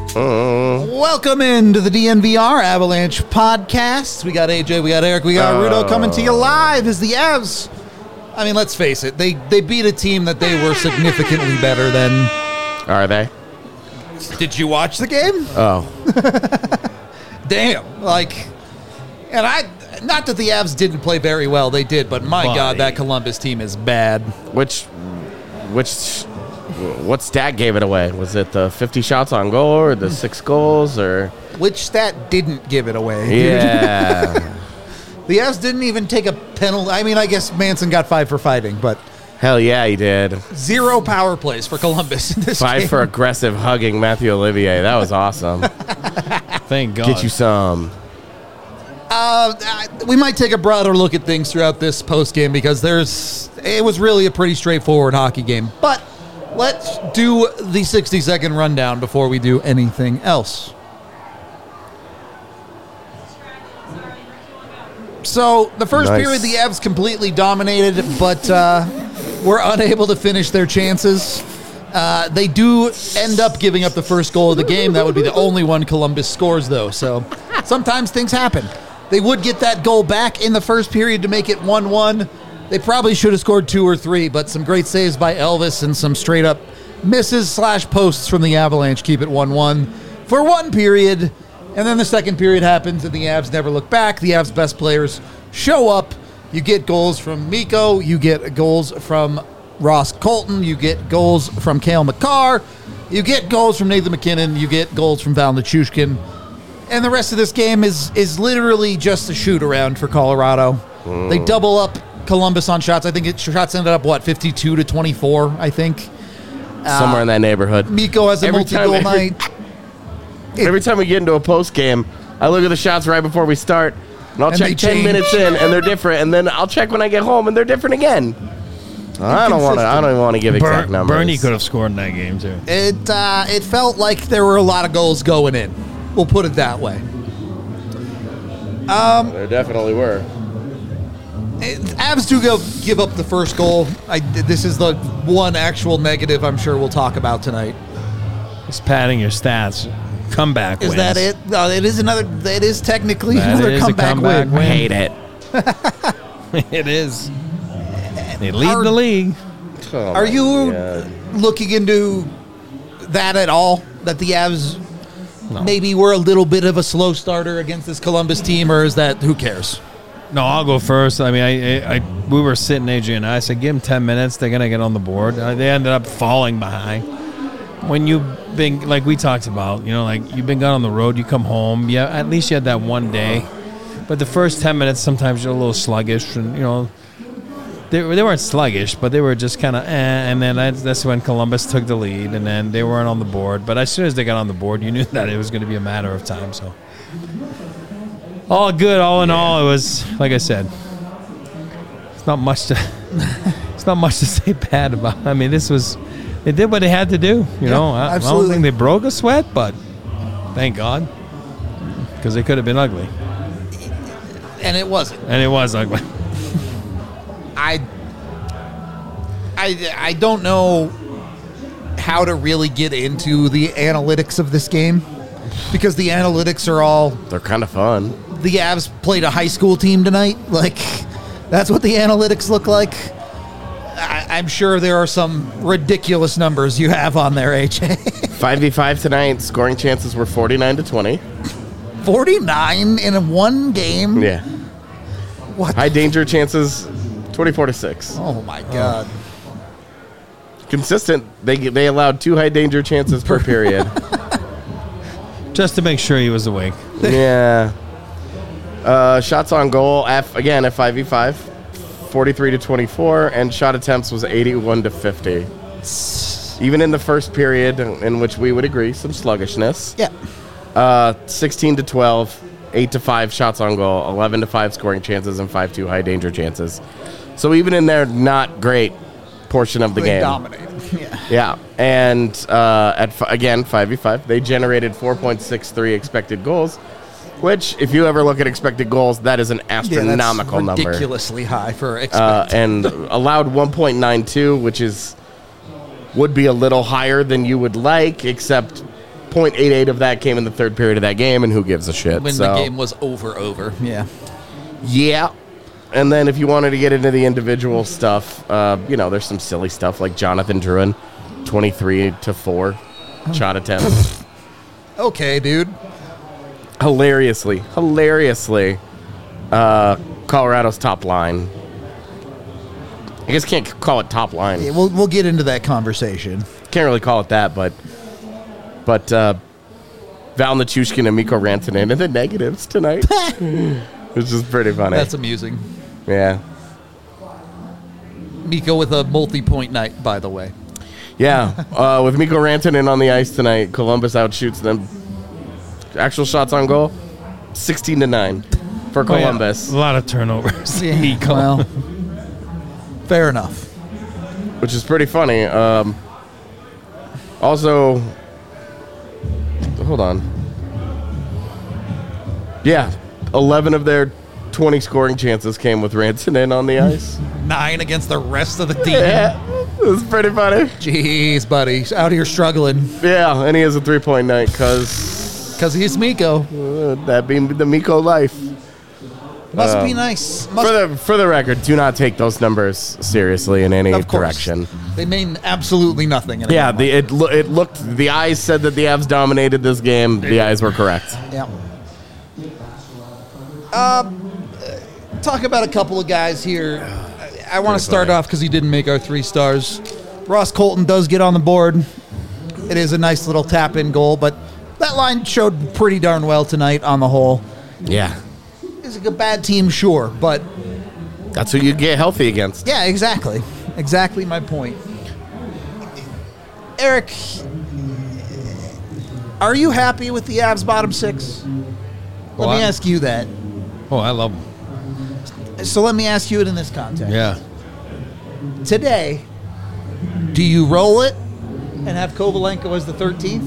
Welcome into the DNVR Avalanche podcast. We got AJ, we got Eric, we got Rudo coming to you live as the Avs. I mean, let's face it, they beat a team that they were significantly better than. Are they? Did you watch the game? Oh. Damn. And not that the Avs didn't play very well, they did, but my God, that Columbus team is bad. What stat gave it away? Was it the 50 shots on goal or the 6 goals or? Which stat didn't give it away? Yeah. The Avs didn't even take a penalty. I mean, I guess Manson got 5 for fighting, but. Hell yeah, he did. 0 power plays for Columbus in this 5 game. for aggressive hugging Matthew Olivier. That was awesome. Thank God. Get you some. We might take a broader look at things throughout this post game because it was really a pretty straightforward hockey game. But let's do the 60-second rundown before we do anything else. So the first period, the Avs completely dominated, but were unable to finish their chances. They do end up giving up the first goal of the game. That would be the only one Columbus scores, though. So sometimes things happen. They would get that goal back in the first period to make it 1-1. They probably should have scored 2 or 3, but some great saves by Elvis and some straight-up misses/posts from the Avalanche keep it 1-1 for one period. And then the second period happens, and the Avs never look back. The Avs' best players show up. You get goals from Mikko. You get goals from Ross Colton. You get goals from Cale Makar. You get goals from Nathan MacKinnon. You get goals from Val Nichushkin. And the rest of this game is literally just a shoot-around for Colorado. They double up Columbus on shots. I think shots ended up, 52-24, I think. Somewhere in that neighborhood. Mikko has a multi-goal night. Every time we get into a post game, I look at the shots right before we start, and I'll check 10 minutes in, and they're different, and then I'll check when I get home, and they're different again. I don't even want to give exact numbers. Bernie could have scored in that game too. It felt like there were a lot of goals going in. We'll put it that way. There definitely were. Avs do give up the first goal. This is the one actual negative I'm sure we'll talk about tonight. Just padding your stats. Comeback wins. Is that it? No, it is another. It is technically That another is comeback win. I hate it. It is. They lead the league. Oh Are you God. looking into that at all? That the Avs maybe were a little bit of a slow starter against this Columbus team, or is that who cares? No, I'll go first. I mean, we were sitting, AJ and I said, give them 10 minutes. They're going to get on the board. They ended up falling behind. When you've been, like we talked about, you've been gone on the road, you come home. Yeah, at least you had that one day. But the first 10 minutes, sometimes you're a little sluggish. And, they weren't sluggish, but they were just kind of and then that's when Columbus took the lead, and then they weren't on the board. But as soon as they got on the board, you knew that it was going to be a matter of time. So all good, all in all, it was, like I said, it's not much to say bad about. I mean, they did what they had to do. I don't think they broke a sweat, but thank God, because they could have been ugly. And it wasn't. And it was ugly. I don't know how to really get into the analytics of this game because the analytics are they're kind of fun. The Avs played a high school team tonight. That's what the analytics look like. I'm sure there are some ridiculous numbers you have on there, AJ. 5v5 tonight, scoring chances were 49-20. 49 in one game? Yeah. What? High danger chances, 24-6. Oh, my God. Consistent. They allowed 2 high danger chances per period. Just to make sure he was awake. Yeah. Shots on goal, again, at 5v5, 43-24, and shot attempts was 81-50. Even in the first period, in which we would agree, some sluggishness. Yeah. 16-12, 8-5 shots on goal, 11-5 scoring chances, and 5-2 high danger chances. So even in their not great portion of the game. They dominated. Yeah. And again, 5v5, they generated 4.63 expected goals, which, if you ever look at expected goals, that is an astronomical number. Ridiculously high for expected. And allowed 1.92, which would be a little higher than you would like, except .88 of that came in the third period of that game, and who gives a shit? When the game was over. Yeah. Yeah. And then if you wanted to get into the individual stuff, there's some silly stuff like Jonathan Drouin, 23-4 shot attempts. Okay, dude. Hilariously, Colorado's top line. I guess can't call it top line. Yeah, we'll get into that conversation. Can't really call it that, but Val Nichushkin and Mikko Rantanen in the negatives tonight, which is pretty funny. That's amusing. Yeah. Mikko with a multi-point night, by the way. Yeah, with Mikko Rantanen on the ice tonight, Columbus outshoots them. Actual shots on goal, 16-9 for Columbus. Yeah. A lot of turnovers. Mikko. Well, fair enough. Which is pretty funny. Also, hold on. Yeah, 11 of their 20 scoring chances came with Rantanen on the ice. 9 against the rest of the team. Yeah, it was pretty funny. Jeez, buddy. He's out here struggling. Yeah, and he has a 3-point night because he's Mikko. That being the Mikko life. Must be nice. For the record, do not take those numbers seriously in any direction. They mean absolutely nothing. Yeah, it looked. The eyes said that the Avs dominated this game. The eyes were correct. Yeah. Talk about a couple of guys here. I want to start off because he didn't make our 3 stars. Ross Colton does get on the board. It is a nice little tap-in goal, but that line showed pretty darn well tonight on the whole. Yeah. It's a bad team, sure, but... That's who you get healthy against. Yeah, exactly. Exactly my point. Eric, are you happy with the Avs bottom 6? Let me ask you that. Oh, I love them. So let me ask you it in this context. Yeah. Today, do you roll it and have Kovalenko as the 13th?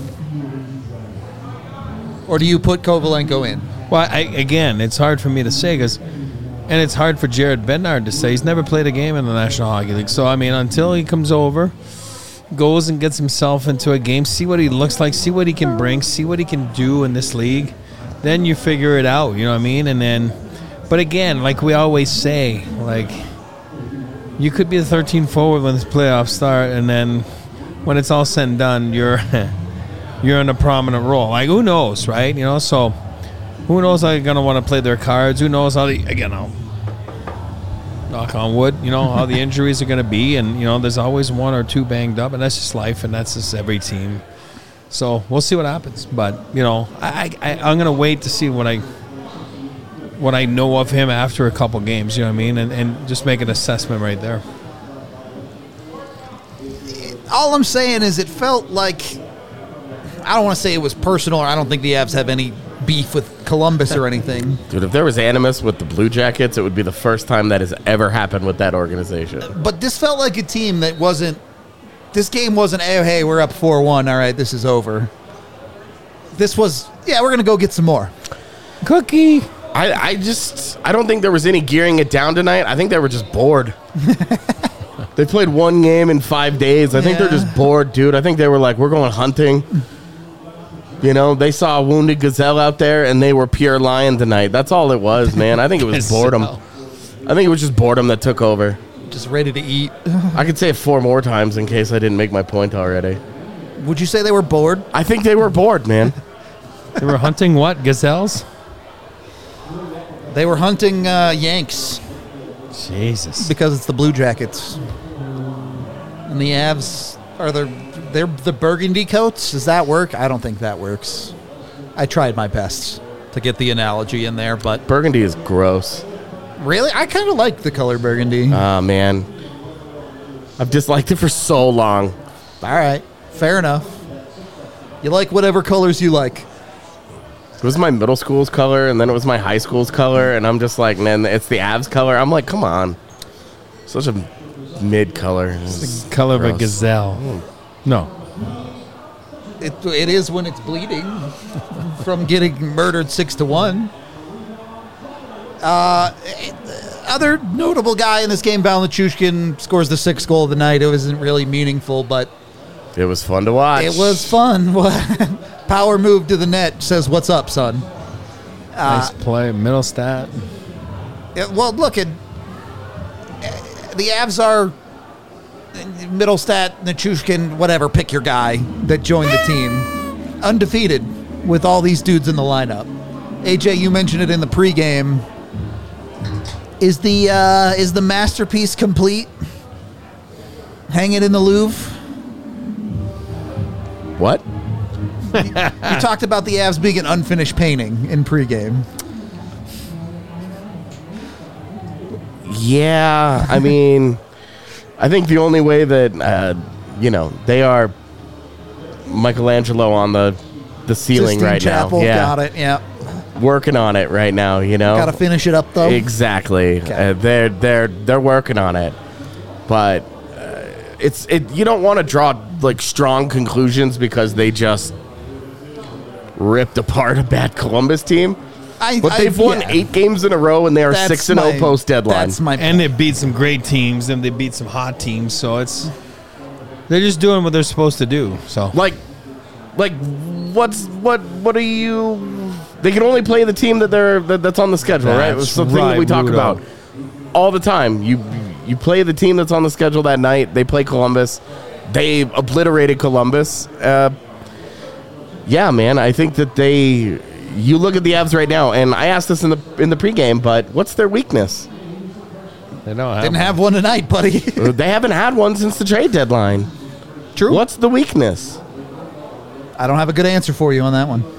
Or do you put Kovalenko in? Well, again, it's hard for me to say and it's hard for Jared Bednar to say. He's never played a game in the National Hockey League. So, I mean, until he comes over, goes and gets himself into a game, see what he looks like, see what he can bring, see what he can do in this league, then you figure it out, you know what I mean? And then, but again, like we always say, like, you could be the 13 forward when this playoffs start, and then when it's all said and done, you're in a prominent role. Like, who knows, right? You know, so who knows how they're going to want to play their cards? Who knows how I'll knock on wood, how the injuries are going to be. And, there's always 1 or 2 banged up, and that's just life, and that's just every team. So we'll see what happens. But, I'm going to wait to see what I know of him after a couple games, you know what I mean? And just make an assessment right there. All I'm saying is it felt like, I don't want to say it was personal, or I don't think the Avs have any beef with Columbus or anything. Dude, if there was animus with the Blue Jackets, it would be the first time that has ever happened with that organization. But this felt like a team that wasn't, this game wasn't, hey, we're up 4-1, all right, this is over. This was, we're going to go get some more. Cookie. I don't think there was any gearing it down tonight. I think they were just bored. They played 1 game in 5 days. I think they're just bored, dude. I think they were like, we're going hunting. They saw a wounded gazelle out there, and they were pure lion tonight. That's all it was, man. I think it was boredom. I think it was just boredom that took over. Just ready to eat. I could say it 4 more times in case I didn't make my point already. Would you say they were bored? I think they were bored, man. They were hunting what? Gazelles? They were hunting Yanks. Jesus. Because it's the Blue Jackets. And the Avs are they're the burgundy coats. Does that work? I don't think that works. I tried my best to get the analogy in there, but burgundy is gross. Really? I kind of like the color burgundy. Oh, man. I've disliked it for so long. All right. Fair enough. You like whatever colors you like. It was my middle school's color, and then it was my high school's color, and I'm just like, man, it's the Avs color. I'm like, come on. Such a mid color. It's the color of a gazelle. No. It is when it's bleeding from getting murdered 6-1. Other notable guy in this game, Val Nichushkin, scores the 6th goal of the night. It wasn't really meaningful, but it was fun to watch. It was fun. Power move to the net says, "What's up, son?" Nice play, middle stat. Well, look at the Avs are Middlestat, Nichushkin, whatever. Pick your guy that joined the team, undefeated with all these dudes in the lineup. AJ, you mentioned it in the pregame. Is the masterpiece complete? Hang it in the Louvre. What? You talked about the Avs being an unfinished painting in pregame. Yeah, I mean, I think the only way that they are Michelangelo on the ceiling Sistine right Chapel, now. Yeah, got it. Yeah, working on it right now. got to finish it up though. Exactly. Okay. They're working on it, but you don't want to draw like strong conclusions because they just ripped apart a bad Columbus team. But they've won 8 games in a row, and they are 6-0 post deadline. That's my point. And they beat some great teams, and they beat some hot teams. So they're just doing what they're supposed to do. So what are you? They can only play the team that's on the schedule, right? It's something that we talk about all the time. You play the team that's on the schedule that night. They play Columbus. They obliterated Columbus. Yeah, man. I think that you look at the Avs right now, and I asked this in the pregame, but what's their weakness? they don't Didn't have one tonight, buddy. They haven't had one since the trade deadline. True. What's the weakness? I don't have a good answer for you on that one.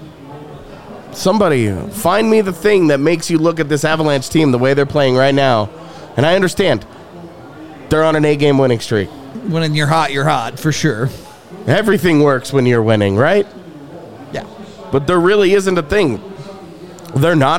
Somebody find me the thing that makes you look at this Avalanche team the way they're playing right now. And I understand they're on an 8-game winning streak. When you're hot, for sure. Everything works when you're winning, right? Yeah. But there really isn't a thing. They're not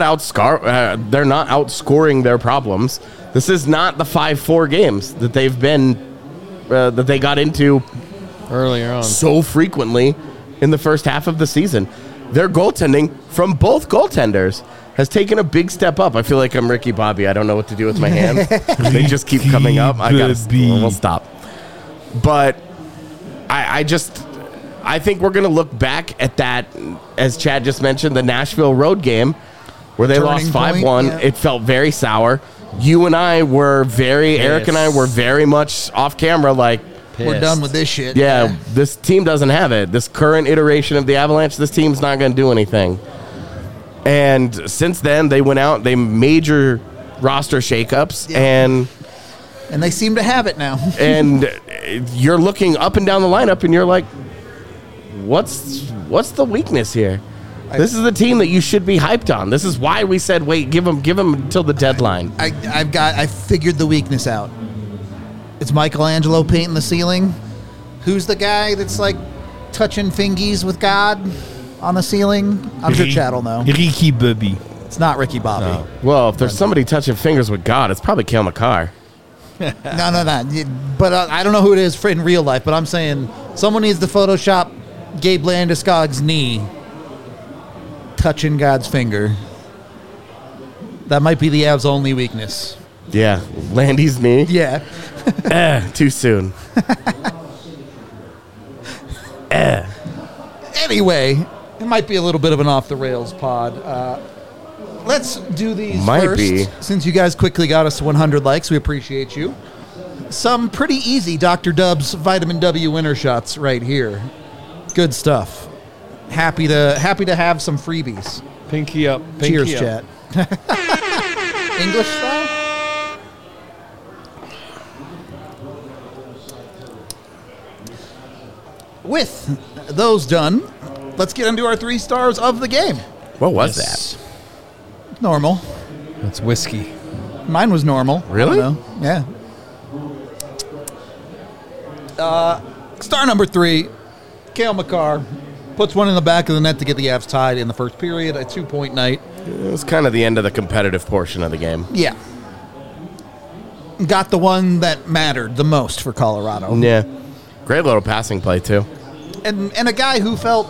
outscoring their problems. This is not the 5-4 games that they've been that they got into earlier on so frequently in the first half of the season. Their goaltending from both goaltenders has taken a big step up. I feel like I'm Ricky Bobby. I don't know what to do with my hands. They just keep coming up. We'll stop. But I think we're going to look back at that, as Chad just mentioned, the Nashville road game where they lost 5-1. Yeah. It felt very sour. You and I were Eric and I were very much off camera like, pissed. We're done with this shit. Yeah, this team doesn't have it. This current iteration of the Avalanche, this team's not going to do anything. And since then, they went out, they major roster shakeups, and they seem to have it now. And you're looking up and down the lineup, and you're like, what's the weakness here? This is the team that you should be hyped on. This is why we said, wait, give them until the deadline. I figured the weakness out. It's Michelangelo painting the ceiling. Who's the guy that's like touching fingies with God on the ceiling? I'm sure Chad will know. Ricky Bobby. It's not Ricky Bobby. No. Well, if there's somebody touching fingers with God, it's probably Cale Makar. No. But I don't know who it is in real life, but I'm saying someone needs to Photoshop Gabe Landeskog's knee touching God's finger. That might be the Avs' only weakness. Yeah, Landy's knee. Yeah. Too soon. Anyway, it might be a little bit of an off-the-rails pod. Let's do these first. Since you guys quickly got us to 100 likes, we appreciate you. Some pretty easy Dr. Dub's Vitamin W winter shots right here. Good stuff. Happy to have some freebies. Pinky up. Cheers, chat. English style? With those done, let's get into our 3 stars of the game. What was that? Normal. That's whiskey. Mine was normal. Really? Yeah. Star number 3, Cale Makar. Puts one in the back of the net to get the Avs tied in the first period, a 2-point night. It was kind of the end of the competitive portion of the game. Yeah. Got the one that mattered the most for Colorado. Yeah. Great little passing play, too. And a guy who felt...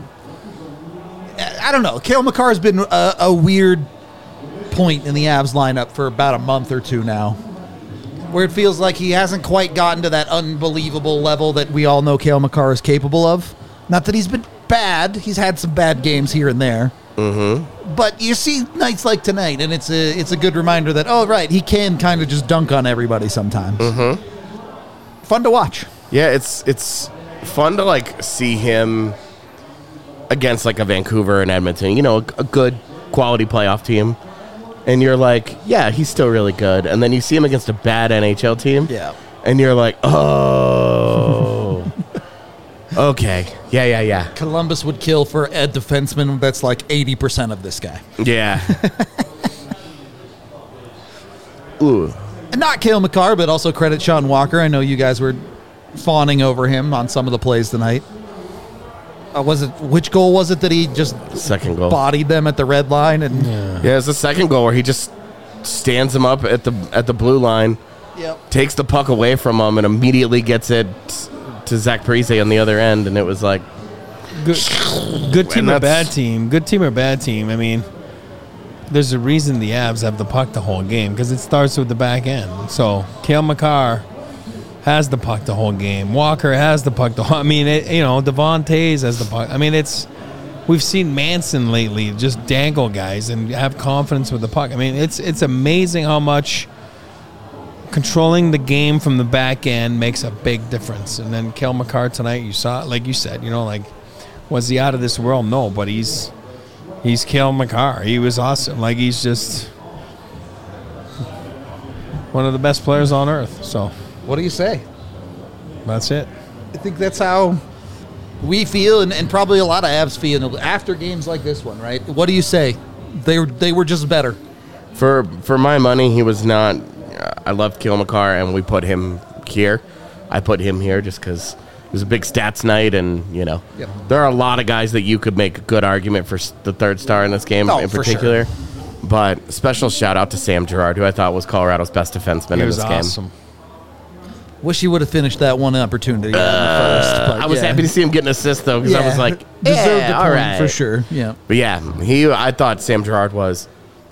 I don't know. Cale Makar's been a weird point in the Avs lineup for about a month or two now, where it feels like he hasn't quite gotten to that unbelievable level that we all know Cale Makar is capable of. Not that he's been bad. bad. He's had some bad games here and there. Mm-hmm. But you see nights like tonight, and it's a good reminder that, oh, right, he can kind of just dunk on everybody sometimes. Mm-hmm. Fun to watch. Yeah, it's fun to, like, see him against, like, a Vancouver and Edmonton, you know, a good quality playoff team. And you're like, yeah, he's still really good. And then you see him against a bad NHL team. Yeah. And you're like, oh. Okay. Yeah. Columbus would kill for a defenseman that's like 80% of this guy. Yeah. Ooh. And not Cale Makar, but also credit Sean Walker. I know you guys were fawning over him on some of the plays tonight. Which goal was it that he just second goal bodied them at the red line? And yeah, it's the second goal where he just stands him up at the blue line, takes the puck away from him, and immediately gets it to Zach Parise on the other end. And it was like, good team or bad team? Good team or bad team? I mean, there's a reason the Avs have the puck the whole game, because it starts with the back end. So Cale Makar has the puck the whole game. Walker has the puck the whole. I mean, Devon Toews has the puck. I mean, we've seen Manson lately just dangle guys and have confidence with the puck. I mean, it's amazing how much controlling the game from the back end makes a big difference. And then Cale Makar tonight, you saw, like you said, like, was he out of this world? No, but he's Cale Makar. He was awesome. Like, he's just one of the best players on earth. So. What do you say? That's it. I think that's how we feel, and probably a lot of Avs feel after games like this one, right? What do you say? They were just better. For my money, he was not. I loved Cale Makar, and we put him here. I put him here just because it was a big stats night, and there are a lot of guys that you could make a good argument for the third star in this game in particular. Sure. But special shout out to Sam Girard, who I thought was Colorado's best defenseman in this game. Wish he would have finished that one opportunity in the first. But I was happy to see him get an assist, though, because I was like, deserved the all point right. For sure. Yeah. But yeah, I thought Sam Girard was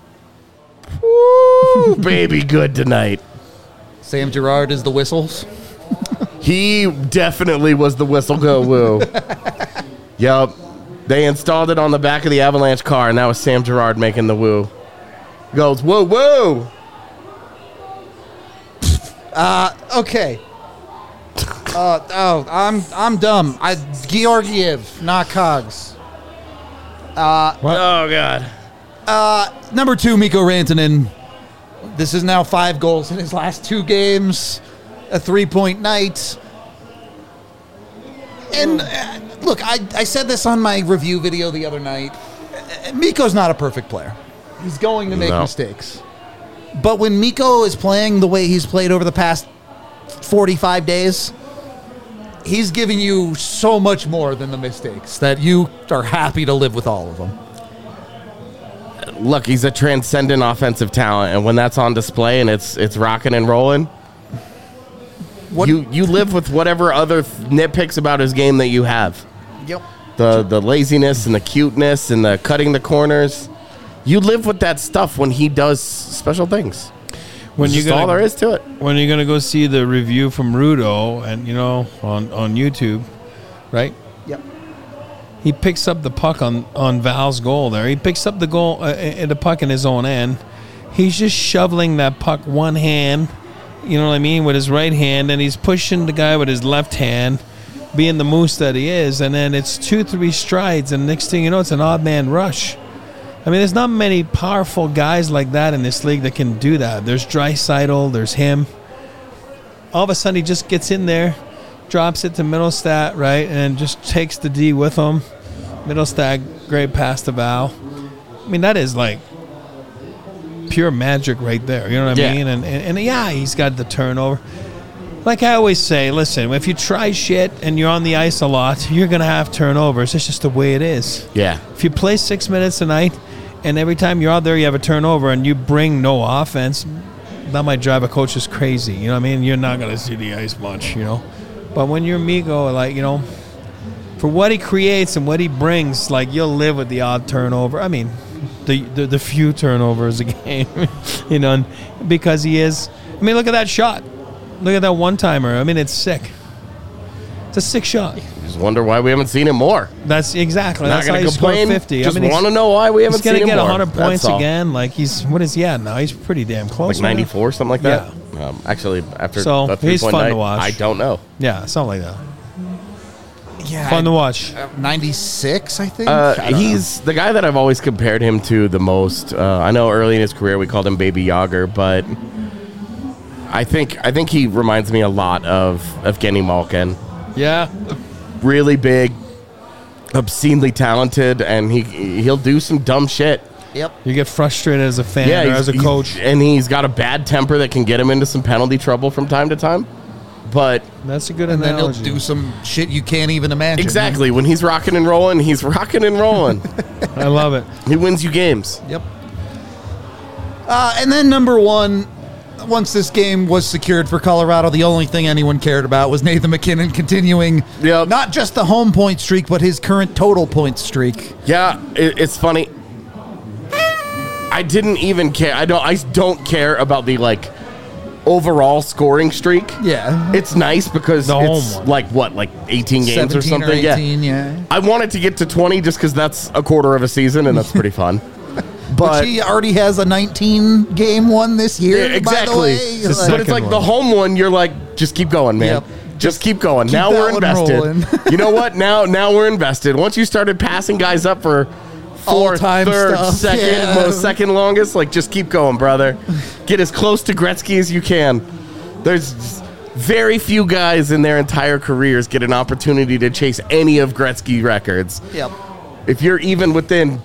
baby good tonight. Sam Girard is the whistles. He definitely was the whistle go woo. Yep. They installed it on the back of the Avalanche car, and that was Sam Girard making the woo. He goes, woo, woo. Okay. I'm dumb. Georgiev, not Cogs. Oh God. Number 2, Mikko Rantanen. This is now 5 goals in his last 2 games. A 3-point night. And look, I said this on my review video the other night. Mikko's not a perfect player. He's going to make mistakes. But when Mikko is playing the way he's played over the past 45 days, he's giving you so much more than the mistakes that you are happy to live with all of them. Look, he's a transcendent offensive talent, and when that's on display and it's rocking and rolling, you live with whatever other nitpicks about his game that you have. Yep. The laziness and the cuteness and the cutting the corners. You live with that stuff when he does special things. That's all there is to it. When you're going to go see the review from Rudo and on YouTube, right? Yep. He picks up the puck on Val's goal there. He picks up the goal, the puck in his own end. He's just shoveling that puck one hand, you know what I mean, with his right hand, and he's pushing the guy with his left hand, being the moose that he is, and then it's 2-3 strides, and next thing you know, it's an odd man rush. I mean, there's not many powerful guys like that in this league that can do that. There's Draisaitl, there's him. All of a sudden, he just gets in there, drops it to Middlestat, right, and just takes the D with him. Middlestat, great pass to Val. I mean, that is like pure magic right there. You know what I mean? And yeah, he's got the turnover. Like I always say, listen, if you try shit and you're on the ice a lot, you're going to have turnovers. It's just the way it is. Yeah. If you play 6 minutes a night and every time you're out there you have a turnover and you bring no offense, that might drive a coach is crazy. You know what I mean? You're not going to see the ice much, But when you're Mikko, like, for what he creates and what he brings, like, you'll live with the odd turnover. I mean, the few turnovers a game, because he is. I mean, look at that shot. Look at that one-timer. I mean, it's sick. It's a sick shot. He's just wonder why we haven't seen him more. That's exactly. Not That's how going he to complain. scored 50. Just want to know why we haven't He's seen him more. He's going to get 100 points That's all. again. Like what is he at now? He's pretty damn close. Like 94, something like that. Actually, after So, a he's 3-point fun night, to watch. I don't know. Yeah, something like that. Yeah, Fun to watch. 96, I think. He's the guy that I've always compared him to the most. I know early in his career we called him Baby Yager, but I think he reminds me a lot of Evgeny Malkin. Yeah. Really big, obscenely talented, and he'll do some dumb shit. Yep. You get frustrated as a fan or as a coach. And he's got a bad temper that can get him into some penalty trouble from time to time. But that's a good and analogy. then he'll do some shit you can't even imagine. Exactly. When he's rocking and rolling, he's rocking and rolling. I love it. He wins you games. Yep. And then number one, once this game was secured for Colorado, the only thing anyone cared about was Nathan MacKinnon continuing not just the home point streak, but his current total point streak. Yeah, it's funny. I didn't even care. I don't care about the overall scoring streak. Yeah. It's nice because it's like 18 games or something. Or 18, yeah. I wanted to get to 20 just because that's a quarter of a season and that's pretty fun. But he already has a 19-game one this year. Yeah, exactly. By the way. But it's like the home one. You're like, just keep going, man. Yep. Just keep going. Keep now that we're one invested. rolling. You know what? Now we're invested. Once you started passing guys up for fourth, All-time third, stuff. second longest, just keep going, brother. Get as close to Gretzky as you can. There's very few guys in their entire careers get an opportunity to chase any of Gretzky records. Yep. If you're even within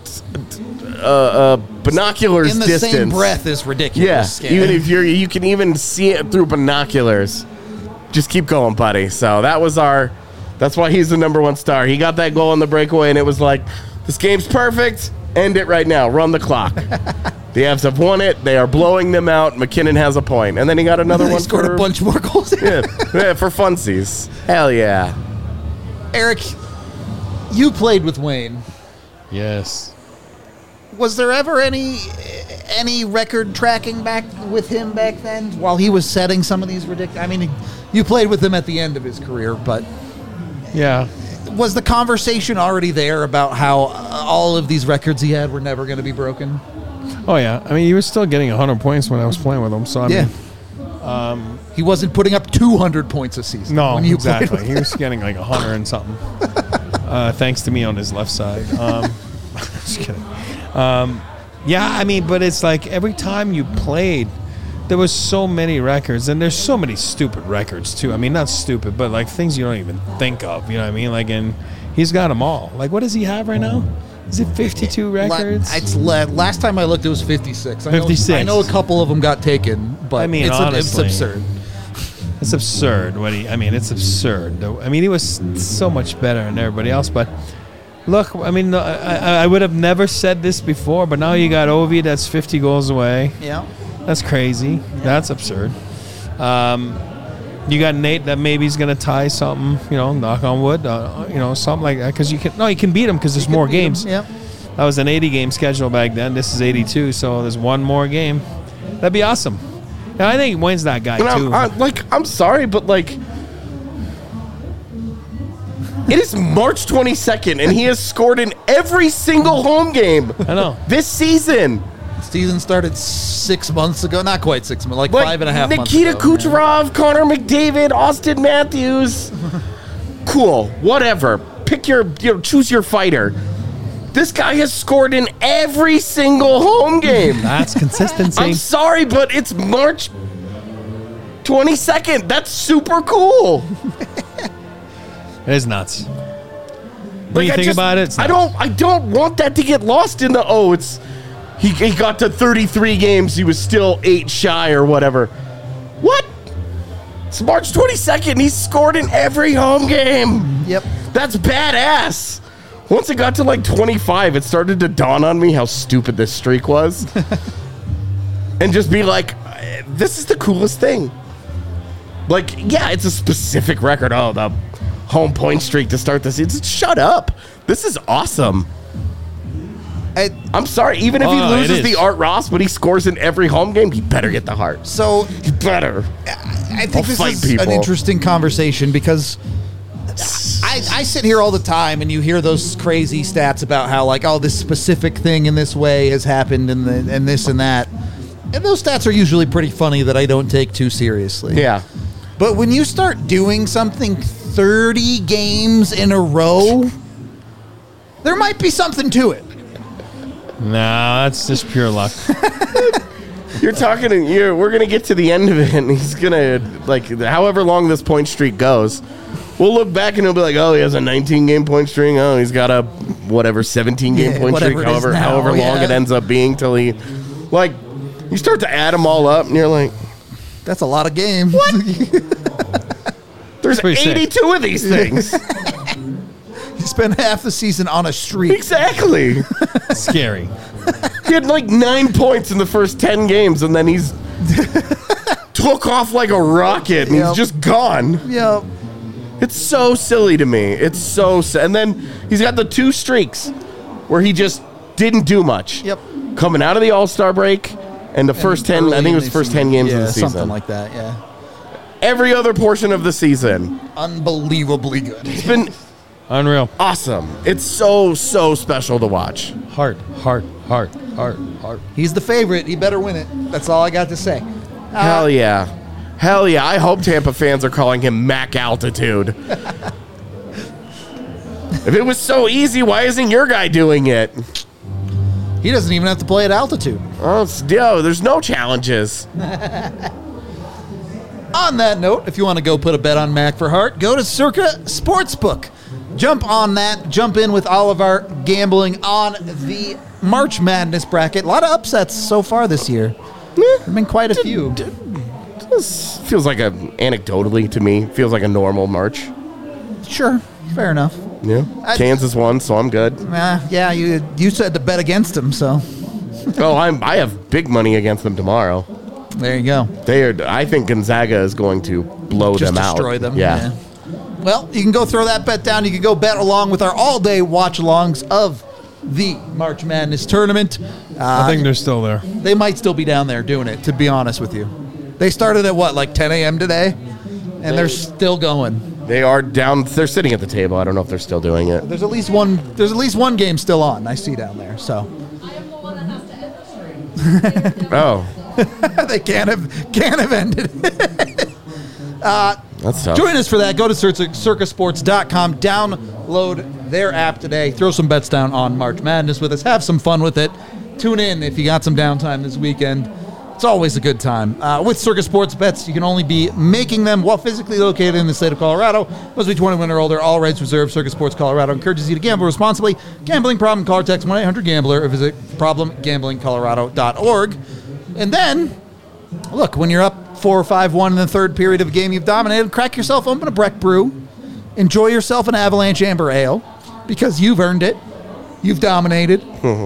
binoculars in the distance, same breath is ridiculous. yeah, even if you can even see it through binoculars. Just keep going, buddy. So that's why he's the number one star. He got that goal on the breakaway, and it was like, this game's perfect. End it right now. Run the clock. The Avs have won it. They are blowing them out. MacKinnon has a point, and then he got another one. Scored a bunch more goals. yeah, for funsies. Hell yeah. Eric, you played with Wayne. Yes. Was there ever any record tracking back with him back then while he was setting some of these ridiculous? I mean, you played with him at the end of his career, but yeah, was the conversation already there about how all of these records he had were never going to be broken? Oh yeah, I mean, he was still getting 100 points when I was playing with him. So I mean, he wasn't putting up 200 points a season. No, when you exactly. He was getting 100 and something. Thanks to me on his left side. Just kidding. Yeah, I mean, but it's like every time you played, there was so many records, and there's so many stupid records too. I mean, not stupid, but things you don't even think of. You know what I mean? And he's got them all. What does he have right now? Is it 52 records? Last time I looked, it was 56. 56. I know a couple of them got taken, but I mean, it's absurd. It's absurd. It's absurd. I mean, he was so much better than everybody else. But look, I mean, I would have never said this before, but now you got Ovi that's 50 goals away. Yeah. That's crazy. Yeah. That's absurd. You got Nate that maybe he's going to tie something, knock on wood, something like that. Because you can beat him because there's more games. Yeah. That was an 80-game schedule back then. This is 82, so there's one more game. That'd be awesome. And I think Wayne's that guy, too. I'm sorry, but it is March 22nd, and he has scored in every single home game. I know. This season. Season started 6 months ago. Not quite 6 months, 5.5 months ago. Nikita Kucherov, Connor McDavid, Austin Matthews. Cool. Whatever. Pick choose your fighter. This guy has scored in every single home game. That's consistency. I'm sorry, but it's March 22nd. That's super cool. It is nuts. When you think about it, it's nuts. I don't want that to get lost in the he got to 33 games, he was still 8 shy or whatever. What? It's March 22nd, he's scored in every home game. Yep. That's badass. Once it got to 25, it started to dawn on me how stupid this streak was. And just be like, this is the coolest thing. It's a specific record. Oh, the home point streak to start the season. Shut up. This is awesome. I'm sorry. Even if he loses the Art Ross, but he scores in every home game, he better get the Hart. So he better. I think this is an interesting conversation because I sit here all the time, and you hear those crazy stats about how, like, oh, this specific thing in this way has happened, and this and that. And those stats are usually pretty funny that I don't take too seriously. Yeah. But when you start doing something 30 games in a row, there might be something to it. No, that's just pure luck. You're talking, we're going to get to the end of it, and he's going to, like, however long this point streak goes, we'll look back and he'll be like, oh, he has a 19-game point streak. Oh, he's got a, 17-game point streak, however long it ends up being till he, like, you start to add them all up, and you're like, that's a lot of games. What? There's 82 of these things. You spend half the season on a streak. Exactly. Scary. He had like 9 points in the first 10 games, and then he's took off like a rocket, and he's just gone. Yep. It's so silly to me. It's so and then he's got the 2 streaks where he just didn't do much. Yep. Coming out of the All-Star break and the first 10, I think it was the first 10 games of the season. Something like that, yeah. Every other portion of the season. Unbelievably good. It's been unreal. Awesome. It's so special to watch. Heart. He's the favorite. He better win it. That's all I got to say. Hell yeah. Hell yeah. I hope Tampa fans are calling him Mac Altitude. If it was so easy, why isn't your guy doing it? He doesn't even have to play at altitude. Oh, there's no challenges. On that note, if you want to go put a bet on Mac for Hart, go to Circa Sportsbook. Jump on that. Jump in with all of our gambling on the March Madness bracket. A lot of upsets so far this year. There have been quite a few. This feels like anecdotally to me, feels like a normal March. Sure. Fair enough. Yeah. Kansas won, so I'm good. Yeah, you said to bet against them, so. Oh, I have big money against them tomorrow. There you go. I think Gonzaga is going to blow them out. Just destroy them. Yeah. Well, you can go throw that bet down. You can go bet along with our all-day watch-alongs of the March Madness tournament. I think they're still there. They might still be down there doing it, to be honest with you. They started at, like 10 a.m. today? And they're still going. They are down. They're sitting at the table. I don't know if they're still doing it. There's at least one game still on. I see down there. So. I am the one that has to end the stream. Oh. They can't have ended it. That's tough. Join us for that. Go to circasports.com. Download their app today. Throw some bets down on March Madness with us. Have some fun with it. Tune in if you got some downtime this weekend. It's always a good time. With Circa Sports bets, you can only be making them while physically located in the state of Colorado. Must be 21 or older. All rights reserved. Circa Sports Colorado encourages you to gamble responsibly. Gambling problem? Call or text 1-800-GAMBLER or visit problemgamblingcolorado.org. And then, look, when you're up 4 or 5-1 in the third period of a game you've dominated, crack yourself open a Breck Brew. Enjoy yourself an Avalanche Amber Ale because you've earned it. You've dominated.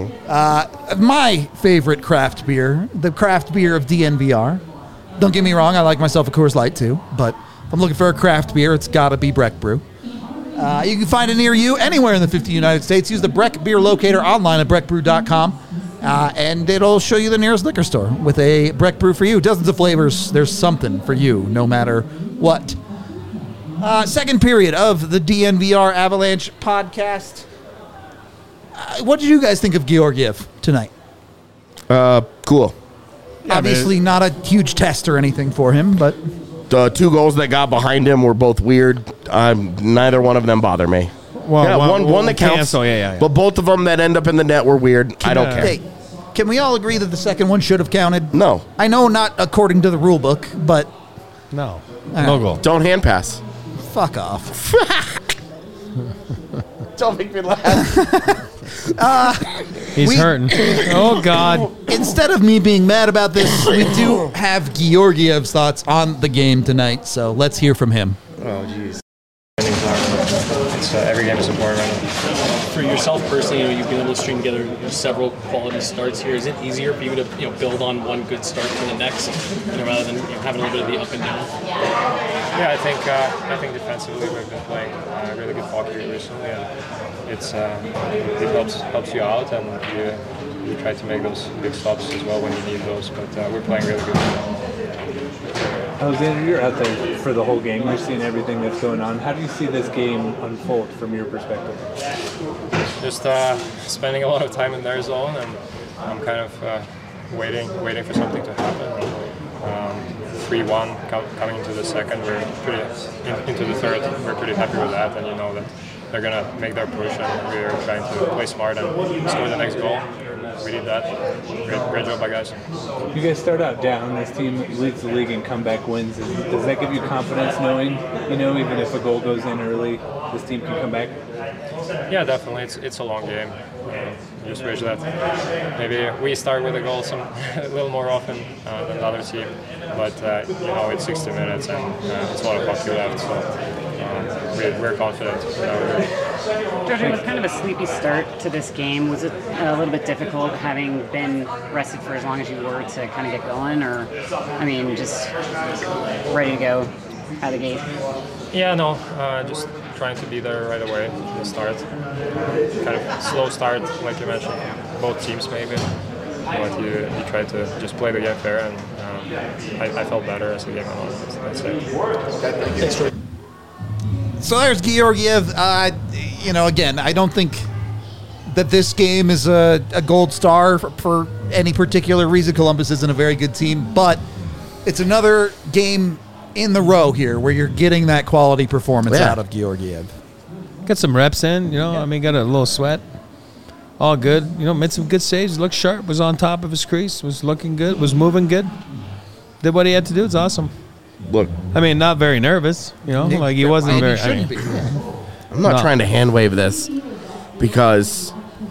My favorite craft beer, the craft beer of DNVR. Don't get me wrong, I like myself a Coors Light too, but if I'm looking for a craft beer, it's got to be Breck Brew. You can find it near you anywhere in the 50 United States. Use the Breck Beer Locator online at breckbrew.com, and it'll show you the nearest liquor store with a Breck Brew for you. Dozens of flavors. There's something for you, no matter what. Second period of the DNVR Avalanche podcast. What did you guys think of Georgiev tonight? Cool. Obviously not a huge test or anything for him, but... The 2 goals that got behind him were both weird. Neither one of them bother me. Well, yeah, one that counts. Yeah. But both of them that end up in the net were weird. I don't care. Hey, can we all agree that the second one should have counted? No. I know not according to the rule book, but... No. No goal. Don't hand pass. Fuck off. Don't make me laugh. He's hurting. Oh, God. Instead of me being mad about this, we do have Georgiev's thoughts on the game tonight, so let's hear from him. Oh, jeez. It's every game is important right now. For yourself personally, you've been able to string together several quality starts here. Is it easier for you to build on one good start to the next, rather than having a little bit of the up and down? Yeah, I think defensively we've been playing really good hockey recently, and it helps you out, and you try to make those big stops as well when you need those. But we're playing really good. Alexander, you're out there for the whole game. You're seeing everything that's going on. How do you see this game unfold from your perspective? Just spending a lot of time in their zone, and I'm kind of waiting for something to happen. 3-1 coming into the second, into the third. We're pretty happy with that, and you know that they're gonna make their push, and we're trying to play smart and score the next goal. We did that. Great job by guys. You guys start out down. This team leads the league in comeback wins. Does that give you confidence knowing, even if a goal goes in early, this team can come back? Yeah, definitely. It's a long game. Just wish that maybe we start with a goal a little more often than the other team. But it's 60 minutes and it's a lot of hockey left, so we're confident. George, it was kind of a sleepy start to this game. Was it a little bit difficult having been rested for as long as you were to kind of get going, or just ready to go out of the gate? Yeah, no, just trying to be there right away in the start. Kind of slow start, like you mentioned, both teams maybe. But you try to just play the game fair, and I felt better as the game went on. That's it. So there's Georgiev. Again, I don't think that this game is a gold star for any particular reason. Columbus isn't a very good team, but it's another game in the row here where you're getting that quality performance out of Georgiev. Got some reps in, got a little sweat. All good. Made some good saves. Looked sharp. Was on top of his crease. Was looking good. Was moving good. Did what he had to do. It's awesome. Look. Not very nervous. Like he wasn't very. I'm not trying to hand wave this because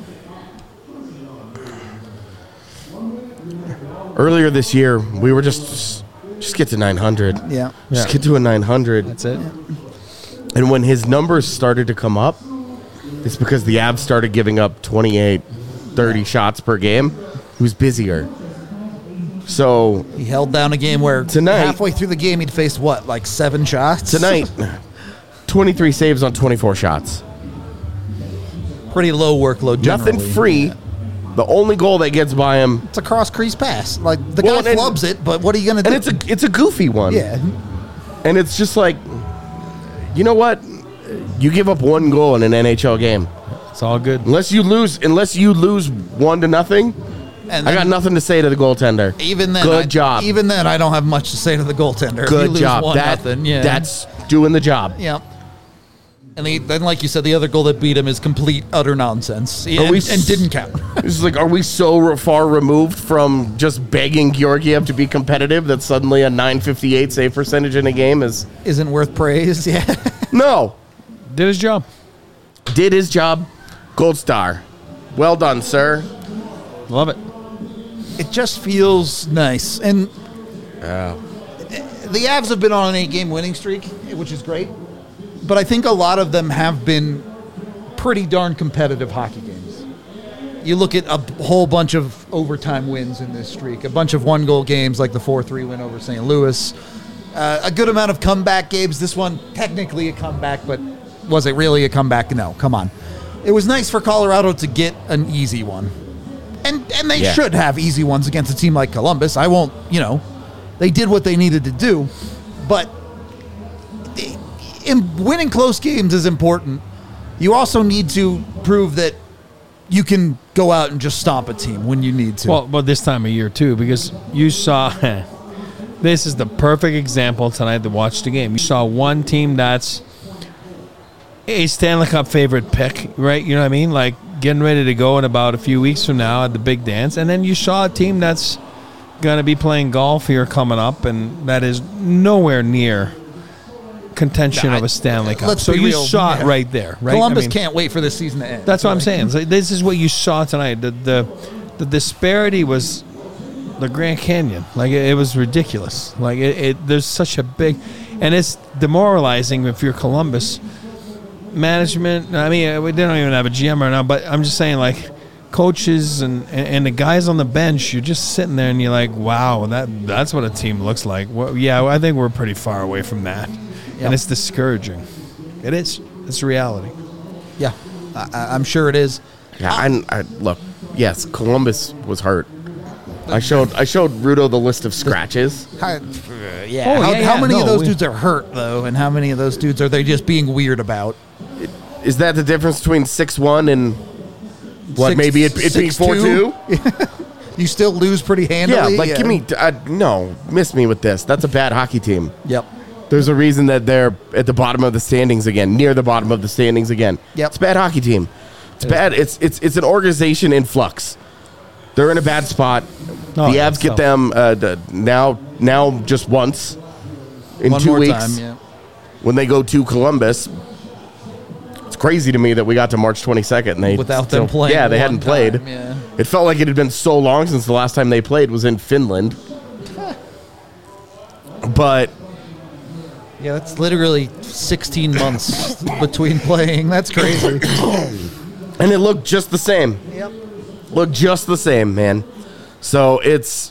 earlier this year we were just get to 900. Yeah. Just get to a 900. That's it. And when his numbers started to come up, it's because the Avs started giving up 28, 30 shots per game. He was busier. So he held down a game where tonight, halfway through the game he'd faced 7 shots? Tonight, 23 saves on 24 shots. Pretty low workload generally. Nothing free. Yeah. The only goal that gets by him, it's a cross-crease pass. Like the guy flubs it, but what are you going to do? And it's a goofy one. Yeah. And it's just like, you know what? You give up one goal in an NHL game. It's all good. Unless you lose 1-0, and I got nothing to say to the goaltender. Even then, good job. Even then, I don't have much to say to the goaltender. Good if you lose job. 1-0, yeah. That's doing the job. Yeah. And then, like you said, the other goal that beat him is complete, utter nonsense, and didn't count. It's like, are we so far removed from just begging Georgiev to be competitive that suddenly a .958 save percentage in a game isn't worth praise? Yeah. No. Did his job. Did his job. Gold star. Well done, sir. Love it. It just feels nice. And the Avs have been on an 8-game winning streak, which is great. But I think a lot of them have been pretty darn competitive hockey games. You look at a whole bunch of overtime wins in this streak, a bunch of 1-goal games like the 4-3 win over St. Louis, a good amount of comeback games. This one, technically a comeback, but was it really a comeback? No, come on. It was nice for Colorado to get an easy one. And they should have easy ones against a team like Columbus. I won't, they did what they needed to do. But winning close games is important. You also need to prove that you can go out and just stomp a team when you need to. Well, this time of year, too, because you saw this is the perfect example tonight to watch the game. You saw one team that's a Stanley Cup favorite pick, right? You know what I mean? Like getting ready to go in about a few weeks from now at the big dance. And then you saw a team that's going to be playing golf here coming up, and that is nowhere near contention of a Stanley Cup. So you saw it right there, right? Columbus can't wait for this season to end. That's what I'm saying. So this is what you saw tonight. The disparity was the Grand Canyon. Like it was ridiculous. Like there's such a big, and it's demoralizing if you're Columbus management. I mean, we don't even have a GM right now, but I'm just saying, like coaches and the guys on the bench, you're just sitting there and you're like, wow, that's what a team looks like. Well, yeah, I think we're pretty far away from that. Yep. And it's discouraging. It is. It's reality. Yeah, I'm sure it is. Yeah, I look, yes, Columbus was hurt. I showed Rudo the list of scratches. How yeah, many of no, those we- dudes are hurt though, and how many of those dudes are they just being weird about? Is that the difference between 6-1 and what? Maybe it being 4-2? You still lose pretty Yeah, handily. give me no. Miss me with this. That's a bad hockey team. Yep. There's a reason that they're at the bottom of the standings again, near the bottom of the standings again. Yep. It's a bad hockey team. It's bad. It's an organization in flux. They're in a bad spot. Oh, the yeah, Avs get so- them now just once in One 2 more weeks time, yeah. when they go to Columbus. It's crazy to me that we got to March 22nd and they Without them playing Yeah, they one hadn't played. time, yeah. It felt like it had been so long since the last time they played was in Finland. But Yeah, that's literally 16 months between playing. That's crazy. and it looked just the same. Yep. Looked just the same, man. So it's,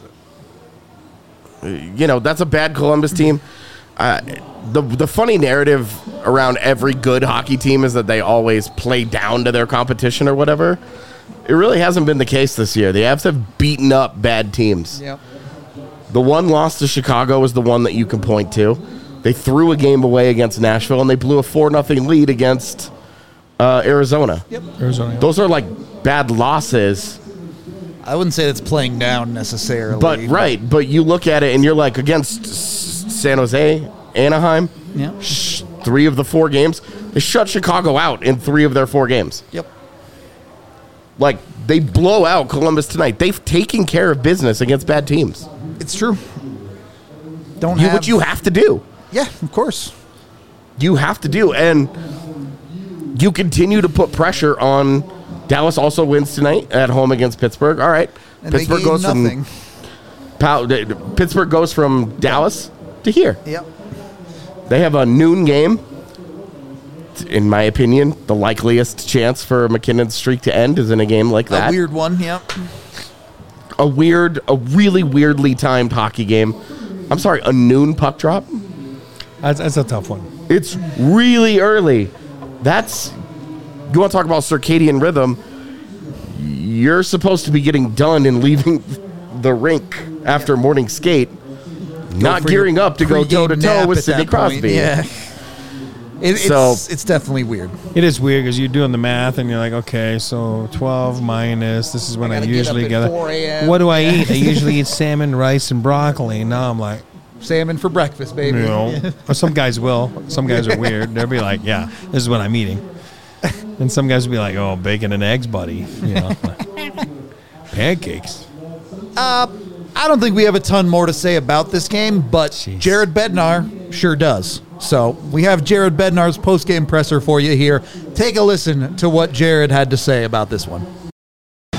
that's a bad Columbus team. The funny narrative around every good hockey team is that they always play down to their competition or whatever. It really hasn't been the case this year. The Avs have beaten up bad teams. Yep. The one loss to Chicago is the one that you can point to. They threw a game away against Nashville, and they blew a 4-0 lead against Arizona. Yep. Arizona. Those are like bad losses. I wouldn't say it's playing down necessarily. But you look at it and you're like, against San Jose, Anaheim, Yeah. 3 of the 4 games, they shut Chicago out in 3 of their 4 games. Yep. Like, they blow out Columbus tonight. They've taken care of business against bad teams. It's true. What you have to do. Yeah, of course. You have to do. And you continue to put pressure on. Dallas also wins tonight at home against Pittsburgh. All right. And Pittsburgh goes nothing. Pittsburgh goes from Dallas to here. Yep. They have a noon game. In my opinion, the likeliest chance for McKinnon's streak to end is in a game like that. A weird one, yep. A really weirdly timed hockey game. I'm sorry, a noon puck drop? That's a tough one. It's really early. You want to talk about circadian rhythm? You're supposed to be getting done and leaving the rink after morning skate, not gearing up to go toe-to-toe with Sidney Crosby. Yeah. It's definitely weird. It is weird because you're doing the math and you're like, okay, so 12 minus. This is when I usually get it. What do I eat? I usually eat salmon, rice, and broccoli. Now I'm like, salmon for breakfast, baby. Or some guys will. Some guys are weird. They'll be like, yeah, this is what I'm eating. And some guys will be like, oh, bacon and eggs, buddy. Pancakes. I don't think we have a ton more to say about this game, but Jeez. Jared Bednar sure does. So we have Jared Bednar's post-game presser for you here. Take a listen to what Jared had to say about this one. Go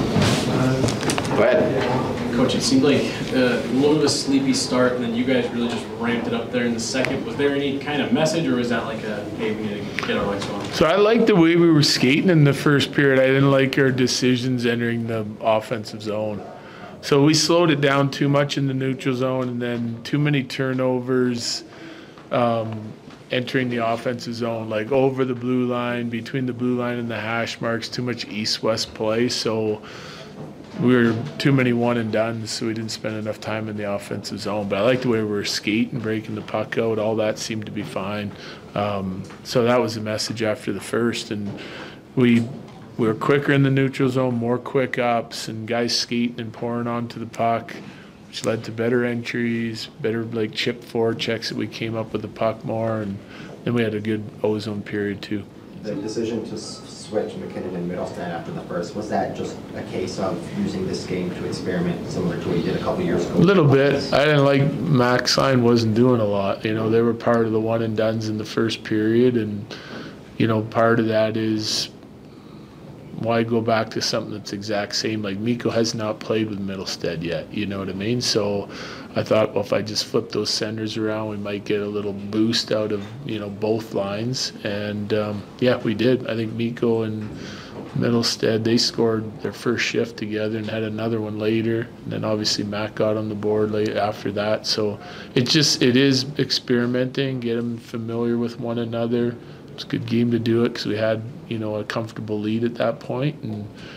ahead. Coach, it seemed like a little bit of a sleepy start, and then you guys really just ramped it up there in the second. Was there any kind of message, or was that like a, hey, we need to get our legs going? So I liked the way we were skating in the first period. I didn't like our decisions entering the offensive zone. So we slowed it down too much in the neutral zone, and then too many turnovers entering the offensive zone, like over the blue line, between the blue line and the hash marks, too much east-west play. So we were too many one and done, so we didn't spend enough time in the offensive zone. But I like the way we were skating, breaking the puck out. All that seemed to be fine. So that was the message after the first, and we were quicker in the neutral zone, more quick ups, and guys skating and pouring onto the puck, which led to better entries, better like chip forward checks that we came up with the puck more, and then we had a good ozone period too. The decision to switch McKinnon and Middlestat after the first, was that just a case of using this game to experiment similar to what you did a couple years ago? A little bit. I didn't like Max Sign wasn't doing a lot. You know, they were part of the one and dones in the first period, and you know, part of that is why go back to something that's exact same? Like Mikko has not played with Middlestat yet, you know what I mean? So I thought, well, if I just flip those centers around, we might get a little boost out of, you know, both lines. And yeah, we did. I think Mikko and Middlestat, they scored their first shift together and had another one later. And then obviously Matt got on the board late after that. So it is experimenting, get them familiar with one another. It's a good game to do it because we had, you know, a comfortable lead at that point, and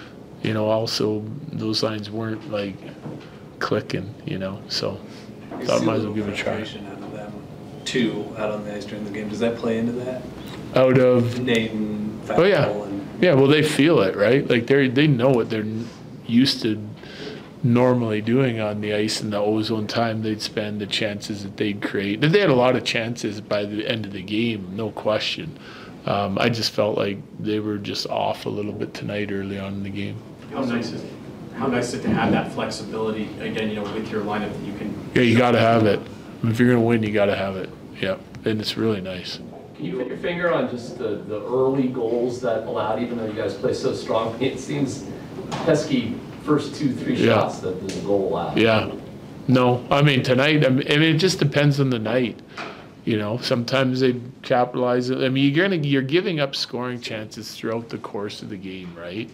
also those lines weren't like clicking, so thought might as well give it a try. Out of them, two out on the ice during the game. Does that play into that? Out of Nate and Oh yeah, yeah. Well, they feel it, right? Like they know what they're used to normally doing on the ice, and the ozone time they'd spend, the chances that they'd create. And they had a lot of chances by the end of the game, no question. I just felt like they were just off a little bit tonight early on in the game. How nice is it to have that flexibility again? With your lineup that you can. Yeah, you got to have it. If you're gonna win, you got to have it. Yeah, and it's really nice. Can you put your finger on just the early goals that allowed, even though you guys play so strong? It seems pesky first 2-3 shots that the goal allowed. Yeah. No, I mean, tonight, it just depends on the night. Sometimes they capitalize it. I mean, you're giving up scoring chances throughout the course of the game, right?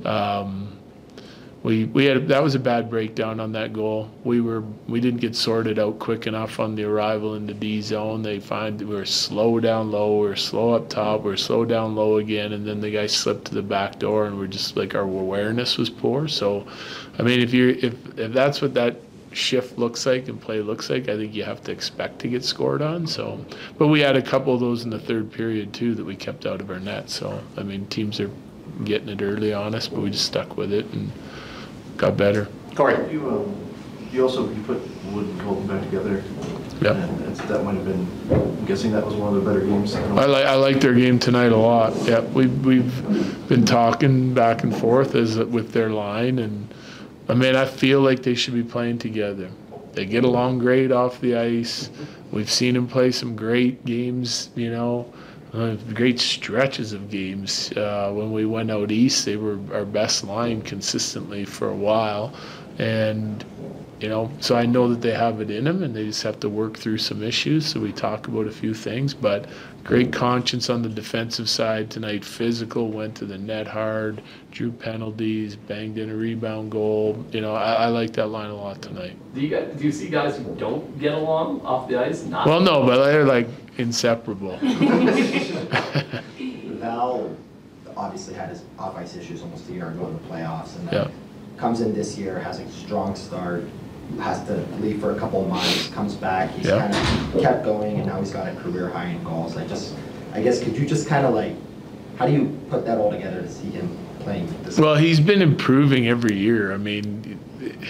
We had that was a bad breakdown on that goal. We didn't get sorted out quick enough on the arrival in the D zone. They find we were slow down low, we were slow up top, we were slow down low again, and then the guy slipped to the back door, and we're just like our awareness was poor. So, I mean, if that's what that shift looks like and play looks like, I think you have to expect to get scored on. So, but we had a couple of those in the third period too that we kept out of our net. So, I mean, teams are getting it early on us, but we just stuck with it and got better. Corey, you put Wood and Colton back together. Yeah, and that might have been. I'm guessing that was one of the better games. I like their game tonight a lot. Yeah, we've been talking back and forth with their line, and I mean, I feel like they should be playing together. They get along great off the ice. We've seen them play some great games, great stretches of games. When we went out east, they were our best line consistently for a while. And, so I know that they have it in them, and they just have to work through some issues. So we talk about a few things, but great conscience on the defensive side tonight. Physical, went to the net hard, drew penalties, banged in a rebound goal. I like that line a lot tonight. Do you see guys who don't get along off the ice? Well, no, but they're like inseparable. Val obviously had his off-ice issues almost a year ago in the playoffs, and then comes in this year, has a strong start, has to leave for a couple of months, comes back, he's kind of kept going, and now he's got a career high in goals. I guess, could you just kind of how do you put that all together to see him playing this? Well, he's been improving every year. I mean,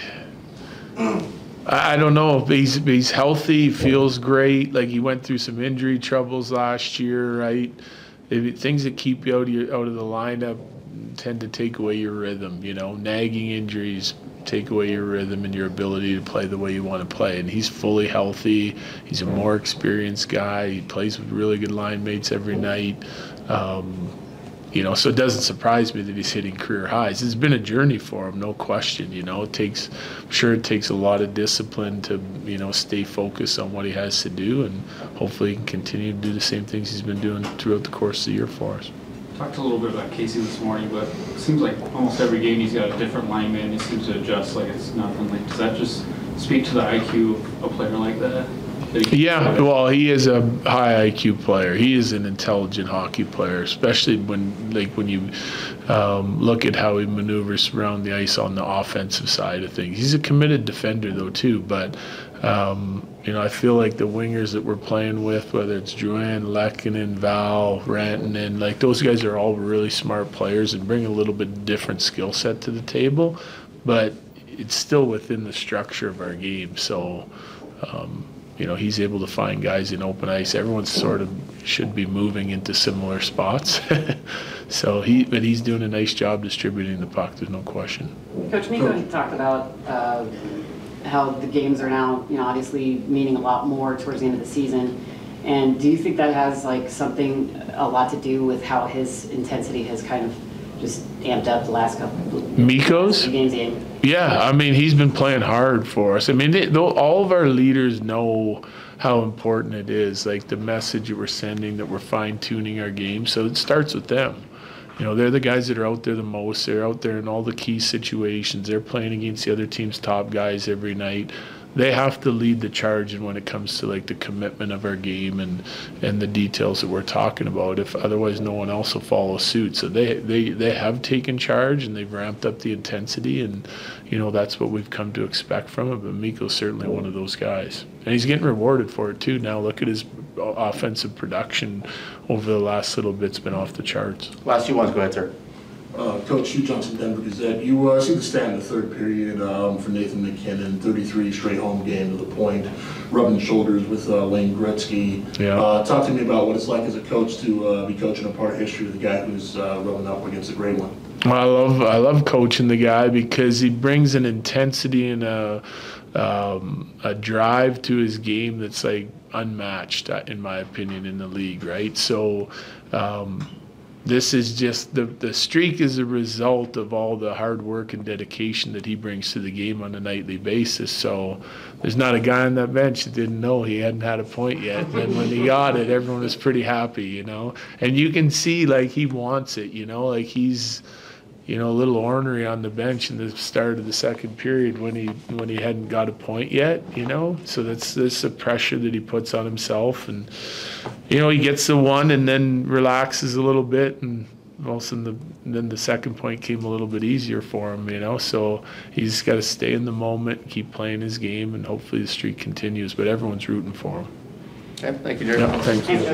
I don't know if he's healthy, feels great. Like, he went through some injury troubles last year, right? Things that keep you out of the lineup tend to take away your rhythm. Nagging injuries take away your rhythm and your ability to play the way you want to play. And he's fully healthy. He's a more experienced guy. He plays with really good line mates every night. So it doesn't surprise me that he's hitting career highs. It's been a journey for him, no question. I'm sure it takes a lot of discipline to, stay focused on what he has to do, and hopefully he can continue to do the same things he's been doing throughout the course of the year for us. Talked a little bit about Casey this morning, but it seems like almost every game he's got a different lineman. He seems to adjust like it's nothing. Does that just speak to the IQ of a player like that? Yeah, well, he is a high IQ player. He is an intelligent hockey player, especially when you look at how he maneuvers around the ice on the offensive side of things. He's a committed defender, though, too. But I feel like the wingers that we're playing with, whether it's Drouin, Lehkonen, Val, Rantanen, those guys are all really smart players and bring a little bit different skill set to the table. But it's still within the structure of our game. So. He's able to find guys in open ice. Everyone sort of should be moving into similar spots. So he's doing a nice job distributing the puck. There's no question. Coach Mikko talked about how the games are now, obviously meaning a lot more towards the end of the season. And do you think that has a lot to do with how his intensity has kind of just amped up the last couple of Mikko's games? Yeah, I mean, he's been playing hard for us. I mean, all of our leaders know how important it is, the message that we're sending, that we're fine-tuning our game. So it starts with them. You know, they're the guys that are out there the most. They're out there in all the key situations. They're playing against the other team's top guys every night. They have to lead the charge when it comes to like the commitment of our game and the details that we're talking about. If otherwise, no one else will follow suit. So they have taken charge and they've ramped up the intensity, and you know that's what we've come to expect from him. But Mikko's certainly one of those guys, and he's getting rewarded for it too. Now look at his offensive production over the last little bit's been off the charts. Last two ones, go ahead, sir. Coach Hugh Johnson, Denver Gazette. You see the stat in the third period for Nathan MacKinnon, 33 straight home game to the point, rubbing shoulders with Lane Gretzky. Yeah. Talk to me about what it's like as a coach to be coaching a part of history with a guy who's rubbing up against a great one. Well, I love coaching the guy because he brings an intensity and a drive to his game that's like unmatched, in my opinion, in the league, right? So this is just the streak is a result of all the hard work and dedication that he brings to the game on a nightly basis. So there's not a guy on that bench that didn't know he hadn't had a point yet. And then when he got it, everyone was pretty happy, you know. And you can see like he wants it, you know, like he's, you know, a little ornery on the bench in the start of the second period when he hadn't got a point yet, you know. So that's the pressure that he puts on himself, and you know he gets the one and then relaxes a little bit, and also then the second point came a little bit easier for him, you know. So he's got to stay in the moment, keep playing his game, and hopefully the streak continues. But everyone's rooting for him. Okay, thank you, Jerry. Yeah, thank you.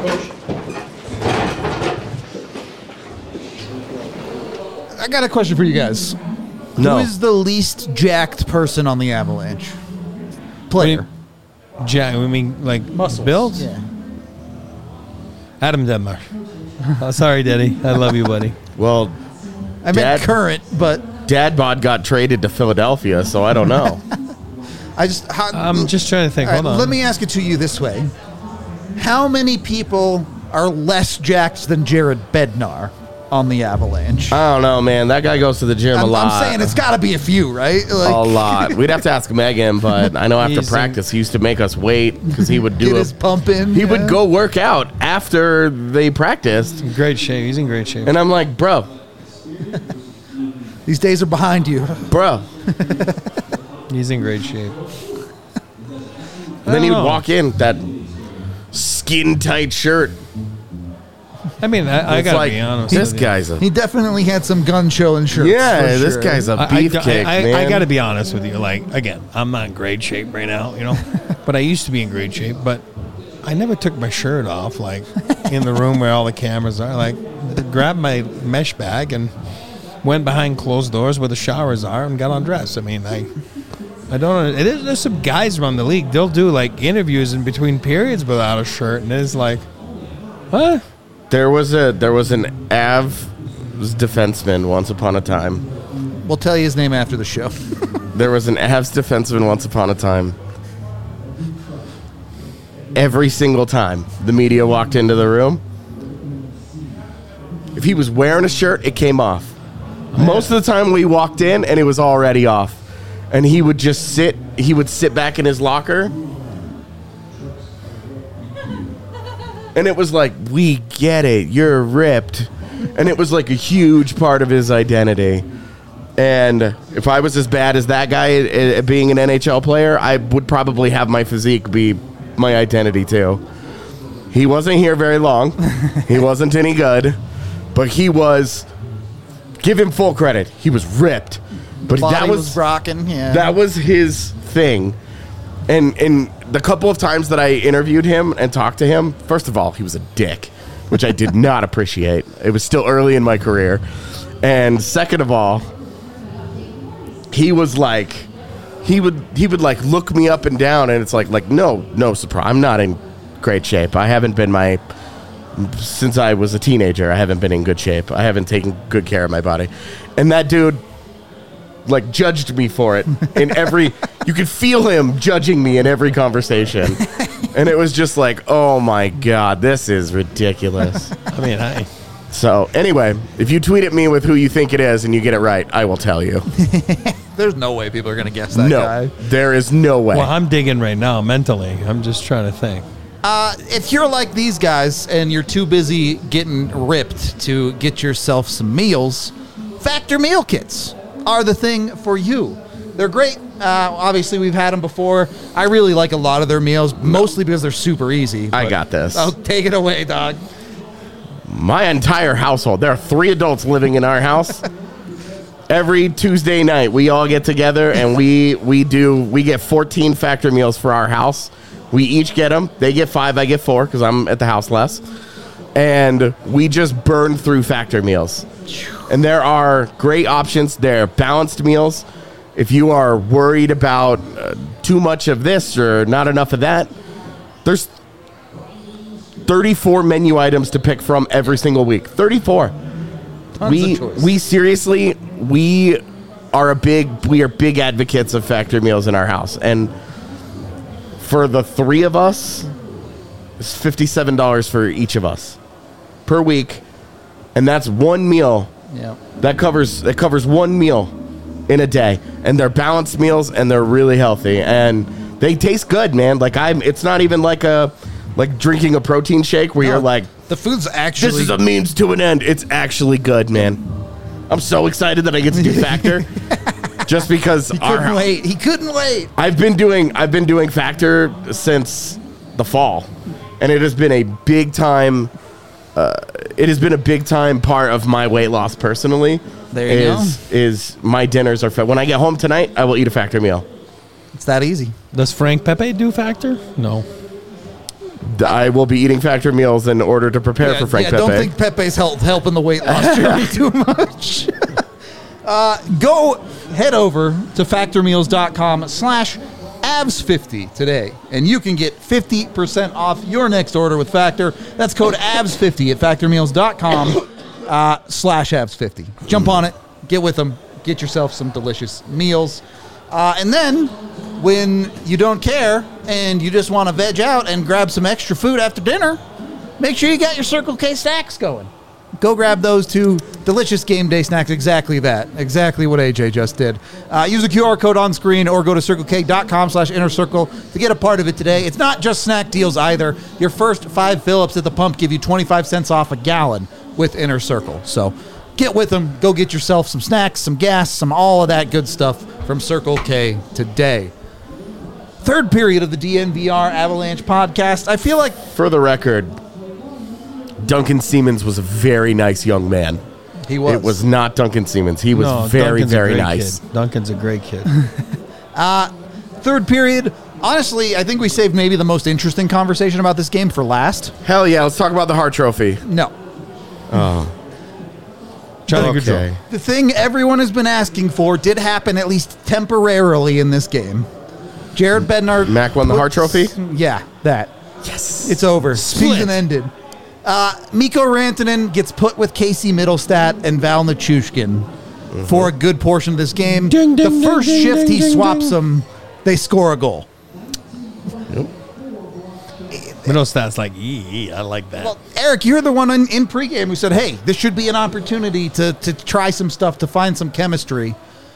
I got a question for you guys. No. Who is the least jacked person on the Avalanche? Player. We mean like Muscles. builds? Yeah. Adam Denmark. Oh, sorry, Daddy. I love you, buddy. Well, I meant current, but Dad Bod got traded to Philadelphia, so I don't know. I'm just trying to think. All right, Hold on. let me ask it to you this way. How many people are less jacked than Jared Bednar on the Avalanche? I don't know, man. That guy goes to the gym a lot. I'm saying it's got to be a few, right? Like, a lot. We'd have to ask Megan, but I know after practice he used to make us wait because he would do Get his pump in. He would go work out after they practiced. In great shape. He's in great shape. And I'm like, bro, these days are behind you, bro. He's in great shape. And then he would walk in that skin tight shirt. I mean, I gotta like, be honest. This guy's a He definitely had some gun show and shirts. Yeah, for this sure. guy's a beefcake, man. I gotta be honest with you. Like, again, I'm not in great shape right now, you know, but I used to be in great shape. But I never took my shirt off, like in the room where all the cameras are. Like, grabbed my mesh bag and went behind closed doors where the showers are and got undressed. I mean, I don't know. There's some guys around the league. They'll do like interviews in between periods without a shirt, and it's like, what? There was an Avs defenseman once upon a time. We'll tell you his name after the show. There was an Avs defenseman once upon a time. Every single time the media walked into the room, if he was wearing a shirt, it came off. Most of the time we walked in and it was already off. And he would just sit back in his locker. And it was like, we get it, you're ripped. And it was like a huge part of his identity. And if I was as bad as that guy being an NHL player, I would probably have my physique be my identity too. He wasn't here very long. He wasn't any good. But he was, give him full credit, he was ripped. But Body that was rocking, yeah. That was his thing. And the couple of times that I interviewed him and talked to him, first of all, he was a dick, which I did not appreciate. It was still early in my career. And second of all, he was like, he would like look me up and down, and it's like no surprise. I'm not in great shape. I haven't been since I was a teenager. I haven't been in good shape. I haven't taken good care of my body. And that dude like judged me for it in every you could feel him judging me in every conversation. And it was just like, oh my God, this is ridiculous. I mean, so anyway, if you tweet at me with who you think it is and you get it right, I will tell you. There's no way people are going to guess that guy. There is no way. Well, I'm digging right now mentally. I'm just trying to think. If you're like these guys and you're too busy getting ripped to get yourself some meals, Factor meal kits are the thing for you. They're great. Obviously, we've had them before. I really like a lot of their meals, mostly because they're super easy. I got this. Oh, take it away, dog. My entire household. There are 3 adults living in our house. Every Tuesday night, we all get together and we get 14 Factor meals for our house. We each get them. They get 5, I get 4 because I'm at the house less. And we just burn through Factor meals. And there are great options. They're balanced meals. If you are worried about too much of this or not enough of that, there's 34 menu items to pick from every single week. 34. Tons of choice. We seriously, we are big advocates of Factor meals in our house. And for the 3 of us, it's $57 for each of us per week. And that's one meal. Yeah. That covers one meal in a day. And they're balanced meals and they're really healthy. And they taste good, man. It's not even like drinking a protein shake where you're like, the food's actually... This is a means to an end. It's actually good, man. I'm so excited that I get to do Factor. Just because He couldn't wait. I've been doing Factor since the fall. And it has been a big time part of my weight loss personally. There you go. Is my dinners are fed. When I get home tonight, I will eat a Factor meal. It's that easy. Does Frank Pepe do Factor? No. I will be eating Factor meals in order to prepare for Frank Pepe. I don't think Pepe's helping the weight loss journey too much. Go head over to factormeals.com/AVS50 today, and you can get 50% off your next order with Factor. That's code AVS50 at factormeals.com/AVS50. Jump on it, get with them, get yourself some delicious meals. And then, when you don't care and you just want to veg out and grab some extra food after dinner, make sure you got your Circle K snacks going. Go grab those 2 delicious game day snacks. Exactly that. Exactly what AJ just did. Use the QR code on screen or go to circlek.com/innercircle to get a part of it today. It's not just snack deals either. Your first 5 fill-ups at the pump give you 25 cents off a gallon with Inner Circle. So get with them. Go get yourself some snacks, some gas, some all of that good stuff from Circle K today. Third period of the DNVR Avalanche podcast. I feel like... For the record, Duncan Siemens was a very nice young man. He was. It was not Duncan Siemens. He was very, very nice. Kid. Duncan's a great kid. Third period. Honestly, I think we saved maybe the most interesting conversation about this game for last. Hell yeah. Let's talk about the Hart Trophy. No. Oh. Okay. The thing everyone has been asking for did happen at least temporarily in this game. Jared Bednar... Mac won the Hart Trophy? Yeah, that. Yes. It's over. Season ended. Mikko Rantanen gets put with Casey Middlestat and Val Nichushkin for a good portion of this game. The first shift he swaps them, they score a goal. Yep. Middlestat's like, I like that. Well, Eric, you're the one in pregame who said, hey, this should be an opportunity to try some stuff, to find some chemistry.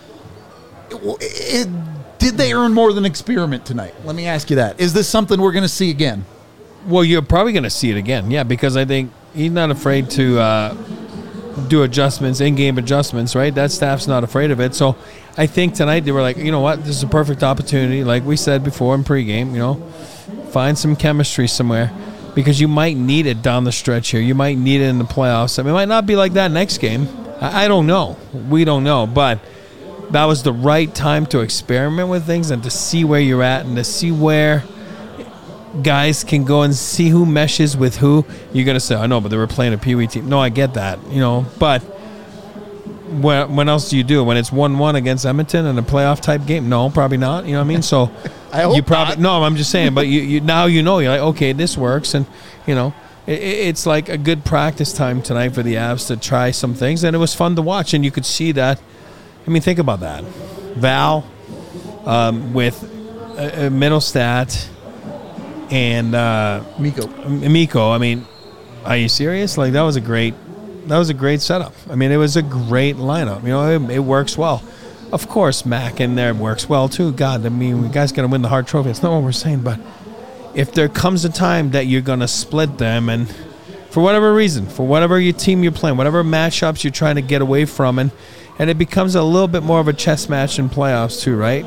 Did they earn more than experiment tonight? Let me ask you that. Is this something we're going to see again? Well, you're probably going to see it again, yeah, because I think he's not afraid to do adjustments, in-game adjustments, right? That staff's not afraid of it. So I think tonight they were like, you know what, this is a perfect opportunity, like we said before in pregame, find some chemistry somewhere because you might need it down the stretch here. You might need it in the playoffs. I mean, it might not be like that next game. I don't know. We don't know, but that was the right time to experiment with things and to see where you're at and to see where guys can go and see who meshes with who. You're going to say, I know, but they were playing a Pee Wee team. No, I get that, but when else do you do it? When it's 1-1 against Edmonton in a playoff type game? No, probably not. You know what I mean? So I hope you probably not. No, I'm just saying, but you now you're like, okay, this works, and it's like a good practice time tonight for the Avs to try some things, and it was fun to watch, and you could see that. I mean, think about that. Val with Middlestat and Mikko. I mean, are you serious? Like that was a great setup. I mean, it was a great lineup. It works well. Of course, Mac in there works well too. God, I mean, we guys got to win the Hart Trophy. It's not what we're saying, but if there comes a time that you're going to split them, and for whatever reason, for whatever your team you're playing, whatever matchups you're trying to get away from, and it becomes a little bit more of a chess match in playoffs too, right?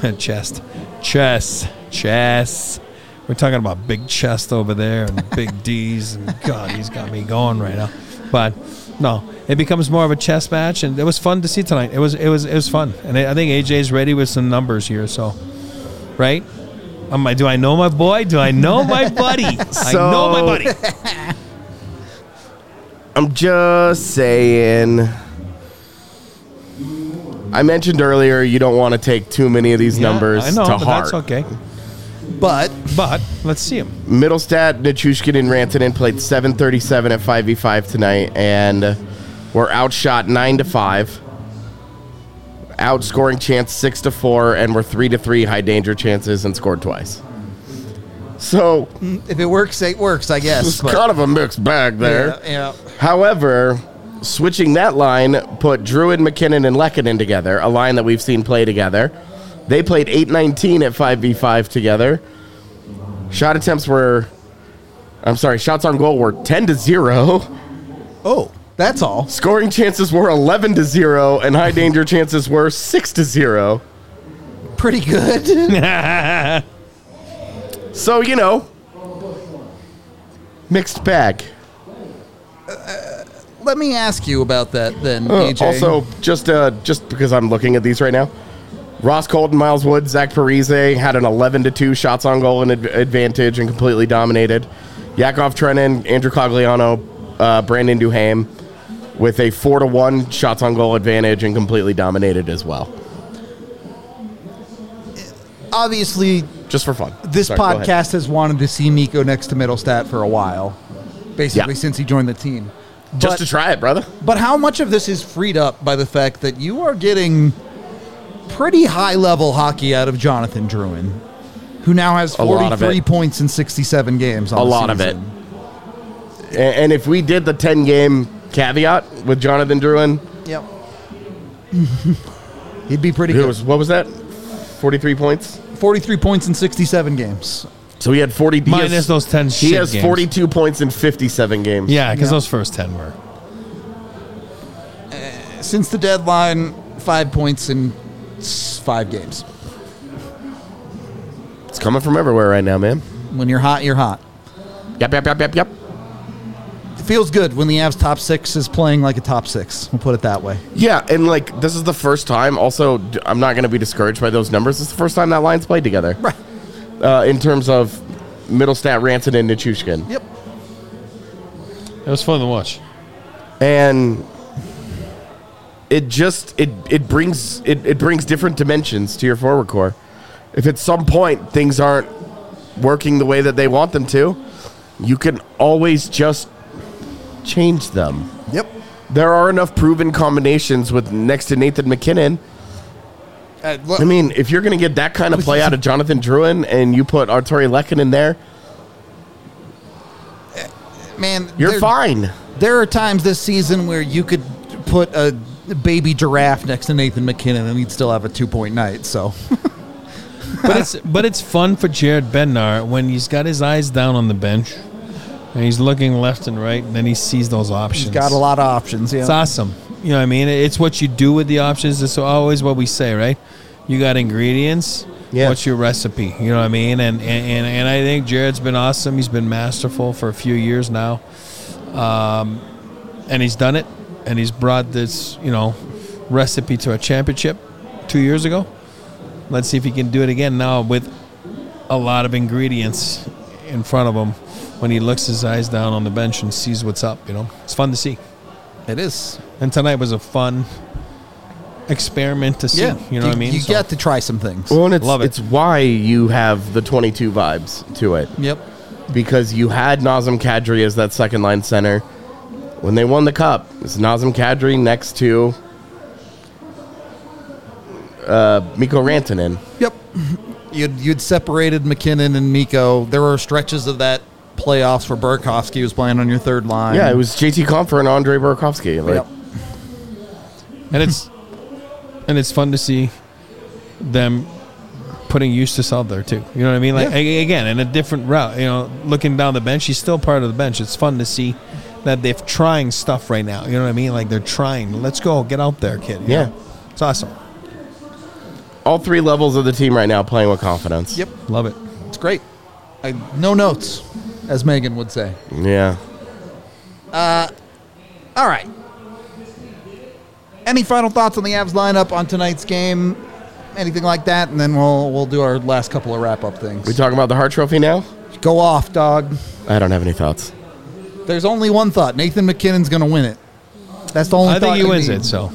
Chess. We're talking about big chest over there and big D's, and God, he's got me going right now. But no, it becomes more of a chess match, and it was fun to see tonight. It was fun, and I think AJ's ready with some numbers here. So, right? Do I know my boy? Do I know my buddy? I know my buddy. I'm just saying. I mentioned earlier you don't want to take too many of these numbers I know, to but heart. that's okay. But let's see him. Middlestat, Nichushkin, and Rantanen played 7:37 at 5v5 tonight, and were outshot 9-5. Outscoring chance 6-4, and were 3-3 high danger chances and scored twice. So if it works, it works, I guess. It's kind of a mixed bag there. Yeah. However, switching that line put Druid, McKinnon, and Lehkonen together, a line that we've seen play together. They played 8-19 at 5v5 together. Shots on goal were 10-0. Oh, that's all. Scoring chances were 11-0, and high danger chances were 6-0. Pretty good. So, mixed bag. Let me ask you about that then, AJ. Also, just because I'm looking at these right now, Ross Colton, Miles Wood, Zach Parise had an 11-2 shots on goal and advantage and completely dominated. Yakov Trenin, Andrew Cogliano, Brandon Duhaime with a 4-1 shots on goal advantage and completely dominated as well. Obviously, just for fun. This podcast has wanted to see Mikko next to Middlestat for a while, basically since he joined the team. Just to try it, brother. But how much of this is freed up by the fact that you are getting pretty high-level hockey out of Jonathan Drouin, who now has 43 points in 67 games on the season? A lot of it. And if we did the 10-game caveat with Jonathan Drouin... Yep. He'd be pretty good. What was that? 43 points? 43 points in 67 games. So he had 40... Minus those 10 He has 42 points in 57 games. Yeah, because those first 10 were. Since the deadline, 5 points in 5 games. It's coming from everywhere right now, man. When you're hot, you're hot. Yep. It feels good when the Avs top 6 is playing like a top 6. We'll put it that way. Yeah, and this is the first time. Also, I'm not going to be discouraged by those numbers. It's the first time that line's played together. Right. In terms of Middlestat, Rantanen, and Nichushkin. Yep. It was fun to watch. And it brings different dimensions to your forward core. If at some point things aren't working the way that they want them to, you can always just change them. Yep. There are enough proven combinations with next to Nathan McKinnon. I mean, if you're going to get that kind of play out of Jonathan Drouin and you put Artturi Lehkonen there, man, you're fine. There are times this season where you could put a baby giraffe next to Nathan McKinnon and he'd still have a 2-point night. So, but it's fun for Jared Bednar when he's got his eyes down on the bench and he's looking left and right, and then he sees those options. He's got a lot of options. Yeah, it's awesome. You know what I mean? It's what you do with the options. It's always what we say, right? You got ingredients. Yeah. What's your recipe? You know what I mean? And I think Jared's been awesome. He's been masterful for a few years now, and he's done it. And he's brought this, recipe to a championship 2 years ago. Let's see if he can do it again now with a lot of ingredients in front of him when he looks his eyes down on the bench and sees what's up. It's fun to see. It is. And tonight was a fun experiment to see. Yeah. You know what I mean? You get to try some things. Well, and Love it. It's why you have the 22 vibes to it. Yep. Because you had Nazem Kadri as that second line center. When they won the cup, it's Nazem Kadri next to Mikko Rantanen. Yep. You'd separated McKinnon and Mikko. There were stretches of that playoffs where Burakovsky was playing on your third line. Yeah, it was JT Compher and Andre Burakovsky. Yep. And it's fun to see them putting Eustace out there too. You know what I mean? Like again, in a different route. You know, looking down the bench, he's still part of the bench. It's fun to see that they're trying stuff right now. You know what I mean? Like they're trying. Let's go, get out there, kid. You know? It's awesome. All 3 levels of the team right now playing with confidence. Yep, love it. It's great. No notes, as Megan would say. Yeah. All right. Any final thoughts on the Avs lineup on tonight's game? Anything like that, and then we'll do our last couple of wrap-up things. We talking about the Hart Trophy now? Go off, dog. I don't have any thoughts. There's only one thought. Nathan MacKinnon's going to win it. That's the only thought. I think he wins it, so.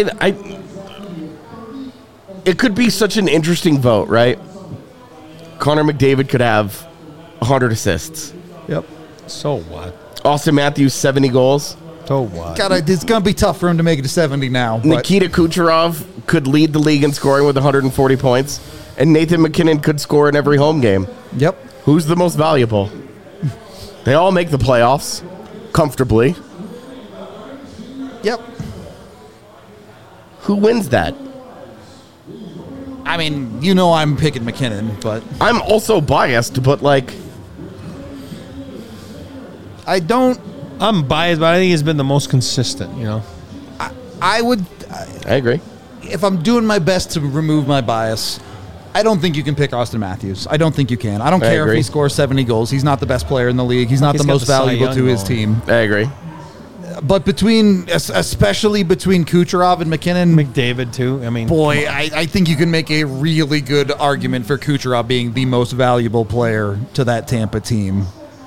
It could be such an interesting vote, right? Connor McDavid could have 100 assists. Yep. So what? Austin Matthews, 70 goals. So what? God, it's going to be tough for him to make it to 70 now. Nikita Kucherov could lead the league in scoring with 140 points, and Nathan MacKinnon could score in every home game. Yep. Who's the most valuable? They all make the playoffs comfortably. Yep. Who wins that? I mean, you know I'm picking McKinnon, but... I'm also biased, but, like... I'm biased, but I think he's been the most consistent, you know? I agree. If I'm doing my best to remove my bias, I don't think you can pick Austin Matthews. I don't think you can. I don't care if he scores 70 goals. He's not the best player in the league. He's not the most valuable to his team. I agree. But especially between Kucherov and McKinnon, McDavid too. I mean, boy, I think you can make a really good argument for Kucherov being the most valuable player to that Tampa team.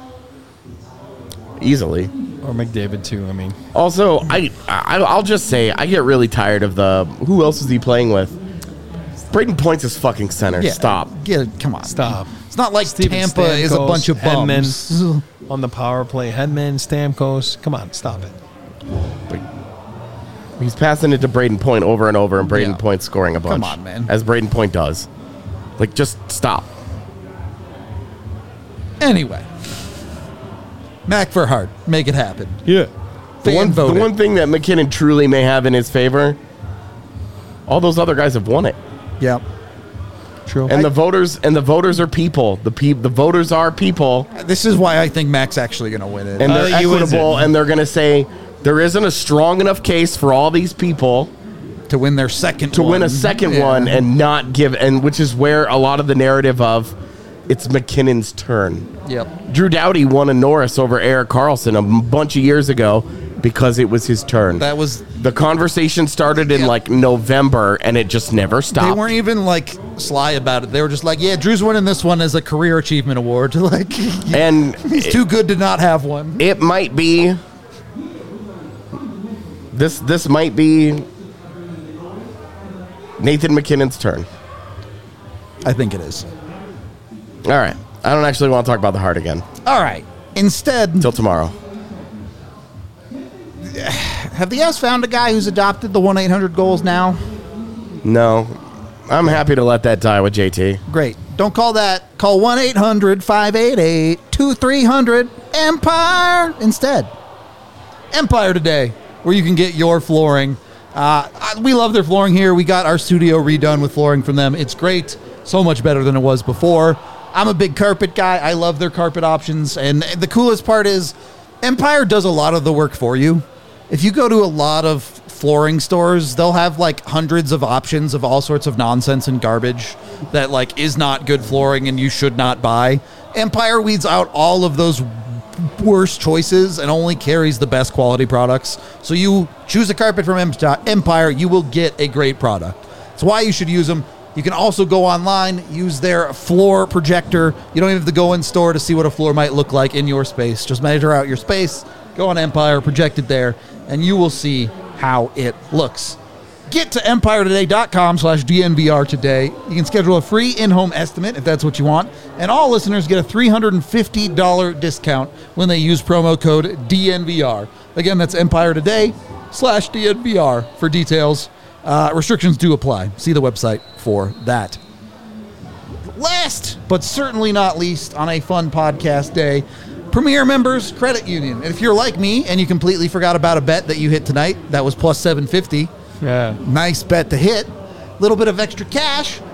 Easily. Or McDavid too. I mean, also, I'll just say I get really tired of who else is he playing with? Braden Point's his fucking center. Yeah, Stop. Come on. Stop. It's not like Steven Tampa Stamkos, is a bunch of bums. Hedman on the power play. Hedman, Stamkos. Come on, stop it. He's passing it to Braden Point over and over, and Braden Point's scoring a bunch. Come on, man. As Braden Point does. Like, just stop. Anyway. Mac for Hart. Make it happen. Yeah. The one thing that McKinnon truly may have in his favor, all those other guys have won it. Yep. True. And the voters are people. The voters are people. This is why I think Mac's actually going to win it. And they're equitable, and they're going to say there isn't a strong enough case for all these people to win their second to win a second one and not give, and which is where a lot of the narrative of it's McKinnon's turn. Yep. Drew Doughty won a Norris over Erik Karlsson a bunch of years ago because it was his turn. That was the conversation started in like November, and it just never stopped. They weren't even like sly about it. They were just like, "Yeah, Drew's winning this one as a career achievement award." Like, and he's too good to not have one. It might be. This might be Nathan MacKinnon's turn. I think it is. All right. I don't actually want to talk about the Hart again. All right. Instead, until tomorrow. Have the Avs found a guy who's adopted the 1-800-GOALS now? No. I'm happy to let that die with JT. Great. Don't call that. Call 1-800-588-2300-EMPIRE instead. Empire Today, where you can get your flooring. We love their flooring here. We got our studio redone with flooring from them. It's great. So much better than it was before. I'm a big carpet guy. I love their carpet options. And the coolest part is Empire does a lot of the work for you. If you go to a lot of flooring stores, they'll have like hundreds of options of all sorts of nonsense and garbage that like is not good flooring and you should not buy. Empire weeds out all of those worst choices and only carries the best quality products. So you choose a carpet from Empire, you will get a great product. That's why you should use them. You can also go online, use their floor projector. You don't even have to go in store to see what a floor might look like in your space. Just measure out your space, go on Empire, project it there, and you will see how it looks. Get to EmpireToday.com/DNVR today. You can schedule a free in-home estimate if that's what you want. And all listeners get a $350 discount when they use promo code DNVR. Again, that's EmpireToday.com/DNVR for details. Restrictions do apply. See the website for that. Last, but certainly not least, on a fun podcast day, Premier Members Credit Union. And if you're like me and you completely forgot about a bet that you hit tonight, that was plus 750. Yeah. Nice bet to hit. Little bit of extra cash.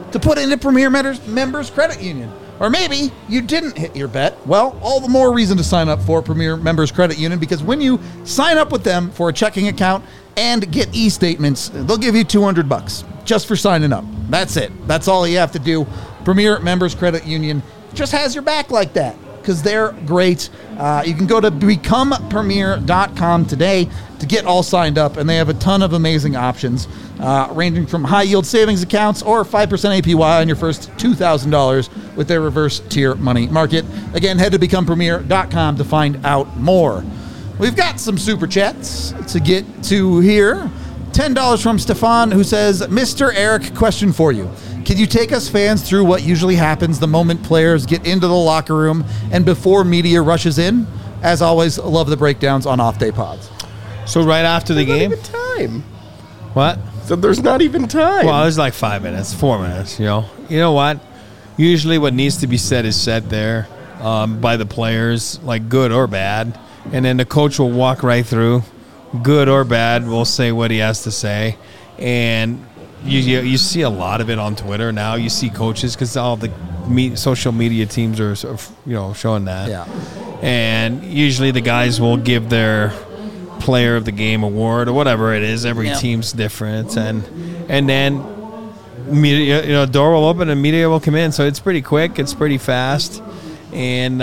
to put into Premier Members Credit Union. Or maybe you didn't hit your bet. Well, all the more reason to sign up for Premier Members Credit Union, because when you sign up with them for a checking account and get e-statements, they'll give you $200 just for signing up. That's it. That's all you have to do. Premier Members Credit Union just has your back like that, because they're great. You can go to becomepremier.com today to get all signed up, and they have a ton of amazing options, ranging from high-yield savings accounts or 5% APY on your first $2,000 with their reverse tier money market. Again, head to becomepremier.com to find out more. We've got some super chats to get to here. $10 from Stefan, who says, Mr. Eric, question for you. Can you take us fans through what usually happens the moment players get into the locker room and before media rushes in? As always, love the breakdowns on off-day pods. So right after the game? Not even time. What? So there's not even time. Well, there's like 5 minutes, 4 minutes, You know what? Usually what needs to be said is said there by the players, like good or bad. And then the coach will walk right through. Good or bad, will say what he has to say. And you see a lot of it on Twitter now. You see coaches, because all the social media teams are showing that. Yeah. And usually the guys will give their player of the game award or whatever it is. Every team's different, and then media, door will open and media will come in. So it's pretty quick. It's pretty fast, and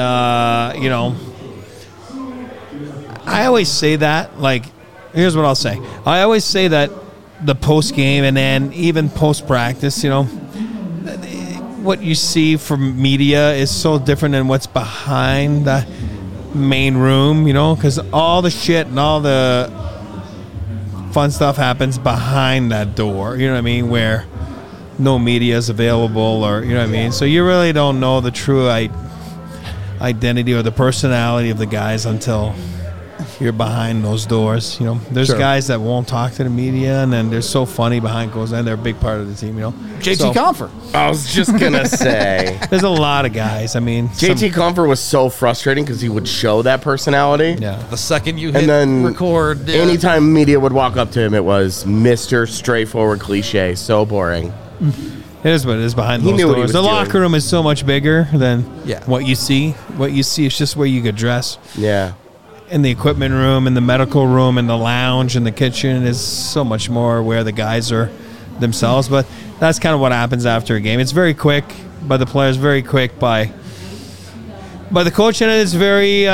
I always say that. Like, here's what I'll say. I always say that the post game and then even post practice, what you see from media is so different than what's behind the main room, because all the shit and all the fun stuff happens behind that door, you know what I mean, where no media is available, or, you know what I mean? So you really don't know the true identity or the personality of the guys until you're behind those doors. There's guys that won't talk to the media, and then they're so funny behind closed doors, and they're a big part of the team. JT Confer. I was just gonna say, there's a lot of guys. I mean, JT Confer was so frustrating because he would show that personality. Yeah. The second you hit and then record, anytime media would walk up to him, it was Mr. Straightforward Cliche. So boring. It is what it is behind those doors. The locker room is so much bigger than what you see. What you see is just where you could dress. Yeah. In the equipment room, in the medical room, in the lounge, in the kitchen is so much more where the guys are themselves. But that's kind of what happens after a game. It's very quick by the players, very quick by the coach, and it's very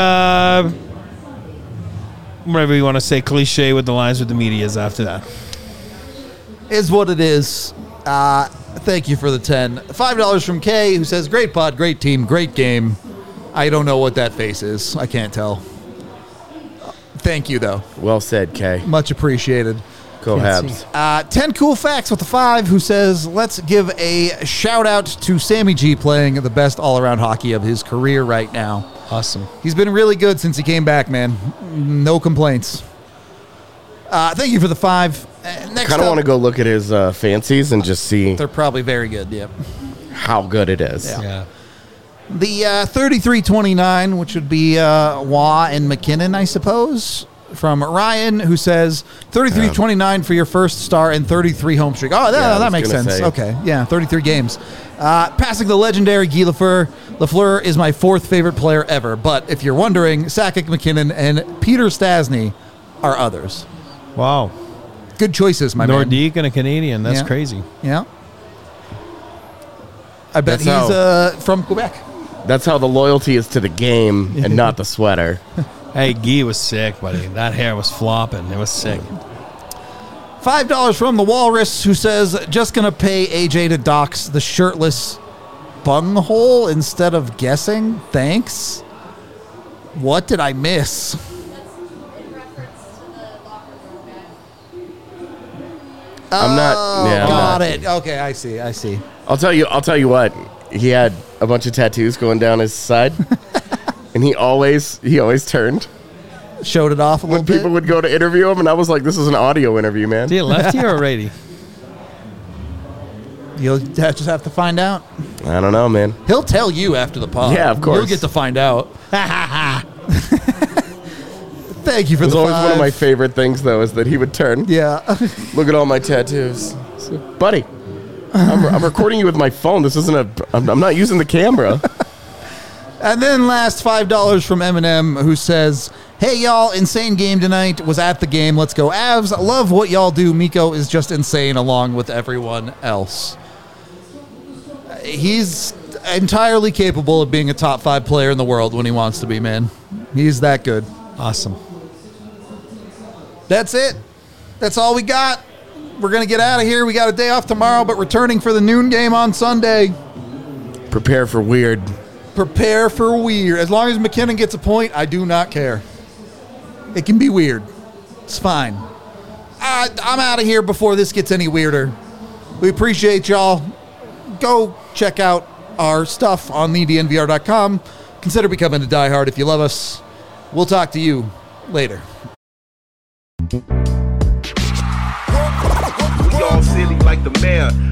whatever you want to say, cliche with the lines with the media is after that. Is what it is. Thank you for the 10. $5 from Kay, who says, great pod, great team, great game. I don't know what that face is. I can't tell. Thank you, though. Well said, Kay. Much appreciated. Go Habs. 10 Cool Facts with the 5, who says, let's give a shout-out to Sammy G playing the best all-around hockey of his career right now. Awesome. He's been really good since he came back, man. No complaints. Thank you for the 5. Next kind of want to go look at his fancies and just see. They're probably very good, yep. How good it is. Yeah. The 33-29, which would be Waugh and McKinnon, I suppose, from Ryan, who says 33-29 for your first star and 33 home streak. Oh, that makes sense. Say. Okay, yeah, 33 games. Passing the legendary Guy Lafleur. Lafleur is my 4th favorite player ever, but if you're wondering, Sakic, McKinnon, and Peter Stastny are others. Wow. Good choices, my man. Nordique and a Canadian. That's crazy. Yeah. I bet he's from Quebec. That's how the loyalty is to the game and not the sweater. Hey, Guy was sick, buddy. That hair was flopping. It was sick. $5 from the Walrus, who says, just going to pay AJ to dox the shirtless bunghole instead of guessing. Thanks. What did I miss? I'm not. Yeah, got it. Okay, I see. I'll tell you what. He had a bunch of tattoos going down his side, and he always turned, showed it off a little bit. When people would go to interview him, and I was like, "This is an audio interview, man." Is he a lefty or a righty? You'll just have to find out. I don't know, man. He'll tell you after the pod. Yeah, of course. You'll get to find out. Thank you for the 5. Always one of my favorite things, though, is that he would turn. Yeah. Look at all my tattoos. So, buddy, I'm recording you with my phone. This isn't I'm not using the camera. And then last $5 from Eminem, who says, "Hey y'all, insane game tonight. Was at the game. Let's go Avs. Love what y'all do. Miko is just insane along with everyone else." He's entirely capable of being a top 5 player in the world when he wants to be, man. He's that good. Awesome. That's it. That's all we got. We're going to get out of here. We got a day off tomorrow, but returning for the noon game on Sunday. Prepare for weird. Prepare for weird. As long as McKinnon gets a point, I do not care. It can be weird. It's fine. I'm out of here before this gets any weirder. We appreciate y'all. Go check out our stuff on thednvr.com. Consider becoming a diehard if you love us. We'll talk to you later. We all silly like the mayor.